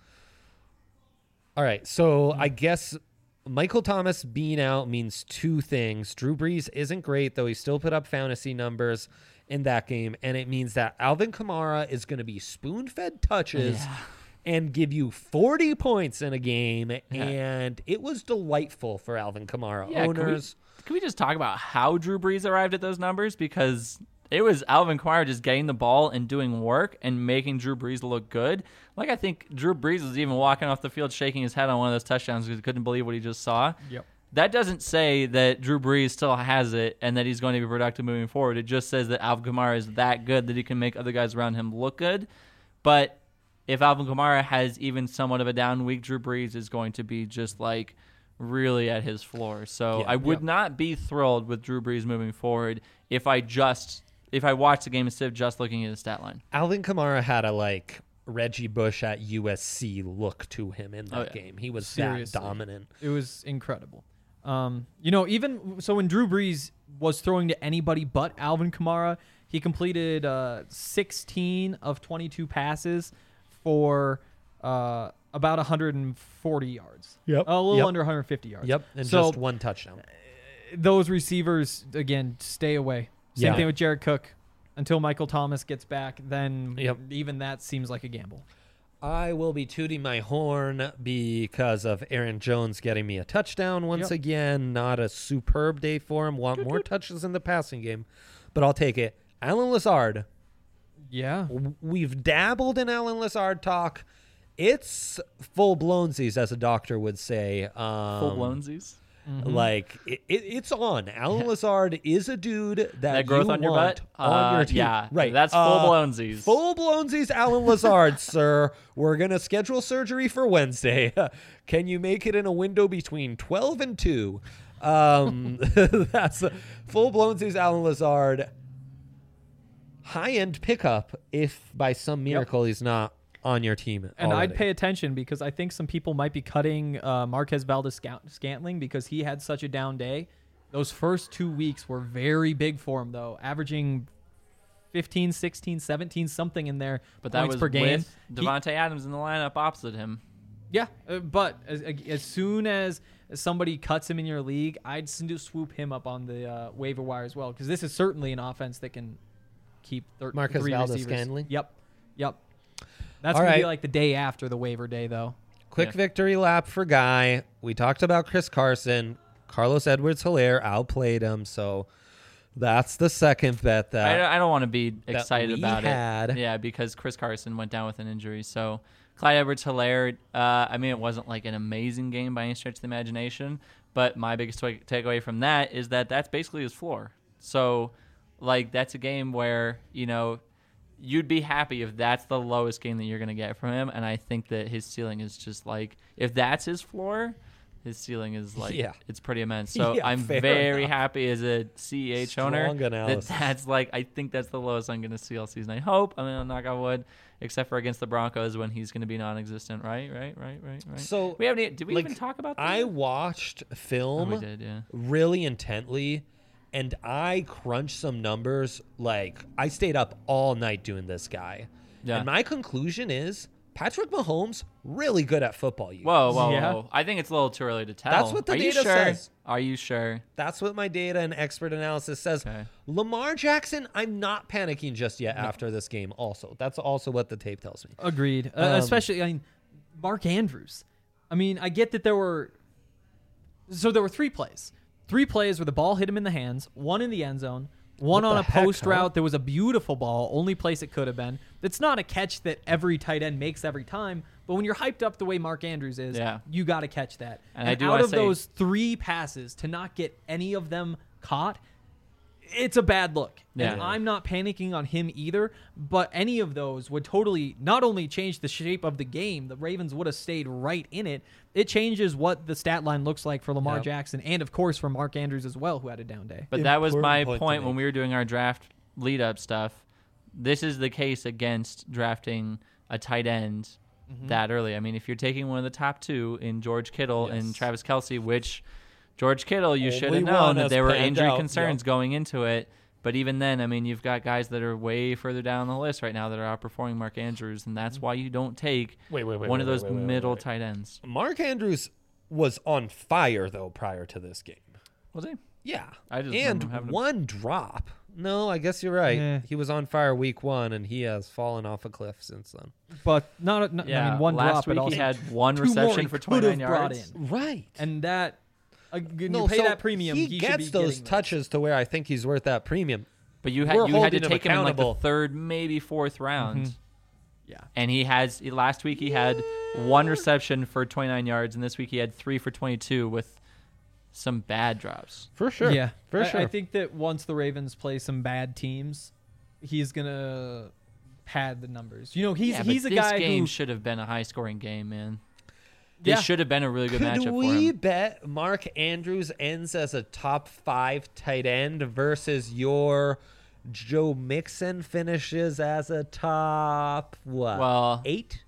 S1: All right, so I guess Michael Thomas being out means 2 things. Drew Brees isn't great, though he still put up fantasy numbers in that game, and it means that Alvin Kamara is going to be spoon-fed touches and give you 40 points in a game, and it was delightful for Alvin Kamara owners.
S3: Can we just talk about how Drew Brees arrived at those numbers? Because it was Alvin Kamara just getting the ball and doing work and making Drew Brees look good. Like, I think Drew Brees was even walking off the field shaking his head on one of those touchdowns because he couldn't believe what he just saw.
S2: Yep.
S3: That doesn't say that Drew Brees still has it and that he's going to be productive moving forward. It just says that Alvin Kamara is that good that he can make other guys around him look good. But if Alvin Kamara has even somewhat of a down week, Drew Brees is going to be just like really at his floor. So I would not be thrilled with Drew Brees moving forward if I watch the game instead of just looking at his stat line.
S1: Alvin Kamara had a Reggie Bush at USC look to him in that game. He was
S2: Seriously.
S1: that dominant.
S2: It was incredible. Even so, when Drew Brees was throwing to anybody but Alvin Kamara, he completed 16 of 22 passes for about 140 yards.
S1: Yep.
S2: A little
S1: Yep.
S2: under 150 yards.
S1: Yep, and
S2: So
S1: just 1 touchdown.
S2: those receivers, again, stay away. Same
S1: Yeah.
S2: thing with Jared Cook. Until Michael Thomas gets back, then
S1: Yep.
S2: even that seems like a gamble.
S1: I will be tooting my horn because of Aaron Jones getting me a touchdown once
S2: Yep.
S1: again. Not a superb day for him. Want more touches in the passing game, but I'll take it. Alan Lazard.
S2: Yeah.
S1: We've dabbled in Alan Lazard talk. It's full blownsies, as a doctor would say.
S3: Full blownsies.
S1: Like it's on. Alan Lazard is a dude
S3: That growth
S1: you
S3: on your
S1: want
S3: butt?
S1: on your team.
S3: Yeah,
S1: Right.
S3: that's full blownsies.
S1: Full blownsies, Alan Lazard, sir. We're gonna schedule surgery for Wednesday. Can you make it in a window between 12 and 2? That's full blownsies, Alan Lazard. high-end pickup if by some miracle he's not on your team
S2: And
S1: already.
S2: I'd pay attention because I think some people might be cutting Marquez Valdez-Scantling because he had such a down day. Those first 2 weeks were very big for him, though, averaging 15, 16, 17, something in there
S3: But that
S2: points
S3: was
S2: per game.
S3: with Devontae Adams in the lineup opposite him.
S2: Yeah, but as soon as somebody cuts him in your league, I'd swoop him up on the waiver wire as well because this is certainly an offense that can keep
S1: Marquez
S2: three
S1: Valdez
S2: receivers.
S1: Scantling?
S2: Yep. That's
S1: All
S2: going to be
S1: right.
S2: like the day after the waiver day, though.
S1: Quick
S3: Yeah.
S1: victory lap for Guy. We talked about Chris Carson. Carlos Edwards-Helaire outplayed him, so that's the second bet that
S3: I don't want to be excited
S1: we
S3: about
S1: had.
S3: it. Yeah, because Chris Carson went down with an injury. So Clyde Edwards-Helaire, I mean, it wasn't like an amazing game by any stretch of the imagination, but my biggest takeaway from that is that that's basically his floor. So, like, that's a game where, you know, you'd be happy if that's the lowest game that you're going to get from him, and I think that his ceiling is just like, if that's his floor, his ceiling is like,
S1: Yeah.
S3: it's pretty immense. So
S1: Yeah,
S3: I'm
S1: fair
S3: very
S1: enough.
S3: happy as a CEH owner
S1: Strong analysis.
S3: that's like, I think that's the lowest I'm going to see all season. I hope. I mean, I'll knock on wood, except for against the Broncos when he's going to be non-existent. Right.
S1: So
S3: We haven't. Did we
S1: like,
S3: even talk about that?
S1: I watched
S3: Oh,
S1: film
S3: we did, yeah.
S1: really intently, and I crunched some numbers. Like, I stayed up all night doing this guy.
S3: Yeah.
S1: And my conclusion is Patrick Mahomes really good at football.
S3: Whoa.
S2: Yeah.
S3: I think it's a little too early to tell.
S1: That's what the
S3: Are you
S1: data
S3: sure?
S1: says.
S3: Are you sure?
S1: That's what my data and expert analysis says.
S3: Okay.
S1: Lamar Jackson, I'm not panicking just yet after this game also. That's also what the tape tells me.
S2: Agreed. Especially, I mean, Mark Andrews. I mean, I get that there were 3 plays. 3 plays where the ball hit him in the hands, one in the end zone, one
S1: What
S2: on
S1: the
S2: a
S1: heck,
S2: post
S1: huh?
S2: route that was a beautiful ball, only place it could have been. It's not a catch that every tight end makes every time, but when you're hyped up the way Mark Andrews is,
S3: Yeah.
S2: you got to catch that.
S3: And I do
S2: out
S3: wanna
S2: of
S3: say-
S2: those 3 passes, to not get any of them caught, it's a bad look.
S3: Yeah.
S2: And I'm not panicking on him either, but any of those would totally not only change the shape of the game, the Ravens would have stayed right in it. It changes what the stat line looks like for Lamar
S1: Yep.
S2: Jackson and, of course, for Mark Andrews as well, who had a down day.
S3: But that was my
S1: Important point to
S3: point when
S1: make.
S3: we were doing our draft lead-up stuff. This is the case against drafting a tight end that early. I mean, if you're taking one of the top 2 in George Kittle and
S1: Yes.
S3: Travis Kelce, which George Kittle, you should
S1: Only
S3: have known
S1: one
S3: that
S1: has
S3: there were
S1: panned
S3: injury
S1: out,
S3: concerns
S1: yep.
S3: going into it. But even then, I mean, you've got guys that are way further down the list right now that are outperforming Mark Andrews, and that's why you don't take one of those middle tight ends.
S1: Mark Andrews was on fire, though, prior to this game.
S3: Was he?
S1: Yeah.
S3: I just
S1: and
S3: remember having a-
S1: one drop. No, I guess you're right.
S2: Yeah.
S1: He was on fire week 1, and he has fallen off a cliff since then.
S2: But I
S3: Yeah,
S2: mean, one
S3: last
S2: drop,
S3: week
S2: but also
S3: he had one
S2: 2 more
S3: reception
S2: he
S3: for
S2: could have
S3: 29
S2: brought
S3: yards.
S2: in.
S1: Right.
S2: And that, when
S1: No,
S2: you pay
S1: so
S2: that premium,
S1: he
S2: should
S1: gets
S2: be
S1: those
S2: getting
S1: touches to where I think he's worth that premium.
S3: But you
S1: We're
S3: had to
S1: holding him
S3: take him in like the
S1: accountable.
S3: 3rd, maybe 4th round.
S2: Mhm. Yeah.
S3: And last week he had 1 reception for 29 yards, and this week he had 3 for 22 with some bad drops.
S1: For sure.
S2: Yeah,
S1: For
S2: I
S1: sure.
S2: think that once the Ravens play some bad teams, he's gonna pad the numbers. You know, he's
S3: but
S2: a
S3: this
S2: guy
S3: game
S2: who
S3: should have been a high-scoring game, man.
S2: Yeah.
S3: This should have been a really good
S1: Could
S3: matchup for
S1: we
S3: him.
S1: bet Mark Andrews ends as a top 5 tight end versus your Joe Mixon finishes as a top, what,
S3: Well,
S1: 8?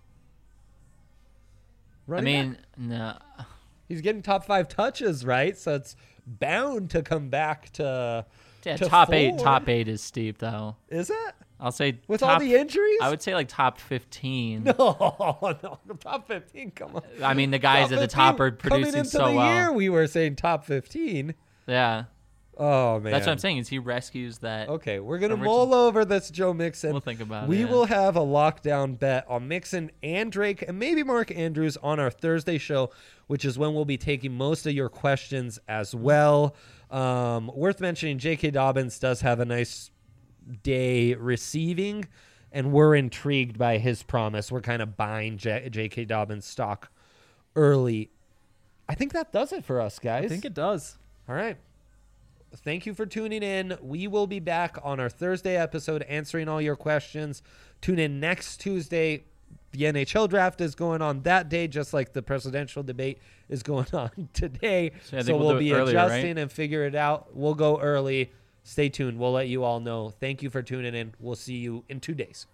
S3: I
S1: Running
S3: mean,
S1: back?
S3: no.
S1: He's getting top 5 touches, right? So it's bound to come back to
S3: Yeah,
S1: to
S3: top
S1: 4.
S3: 8 is steep, though.
S1: Is it?
S3: I'll say
S1: With
S3: top,
S1: all the injuries?
S3: I would say like top 15.
S1: No, top 15, come on.
S3: I mean, the guys at the top are
S1: 15, coming
S3: producing
S1: into
S3: so
S1: the
S3: well.
S1: year, we were saying top 15.
S3: Yeah,
S1: Oh, man.
S3: that's what I'm saying. Is he rescues that?
S1: Okay, we're going to
S3: Original-
S1: mull over this Joe Mixon.
S3: We'll think about it,
S1: We
S3: yeah.
S1: will have a lockdown bet on Mixon and Drake and maybe Mark Andrews on our Thursday show, which is when we'll be taking most of your questions as well. Worth mentioning, J.K. Dobbins does have a nice day receiving, and we're intrigued by his promise. We're kind of buying J.K. Dobbins stock early. I think that does it for us, guys.
S2: I think it does.
S1: All right. Thank you for tuning in. We will be back on our Thursday episode answering all your questions. Tune in next Tuesday. The NHL draft is going on that day, just like the presidential debate is going on today.
S3: So I think
S1: So
S3: we'll
S1: we'll
S3: do it
S1: be
S3: earlier,
S1: adjusting
S3: right?
S1: and figure it out. We'll go early. Stay tuned. We'll let you all know. Thank you for tuning in. We'll see you in 2 days.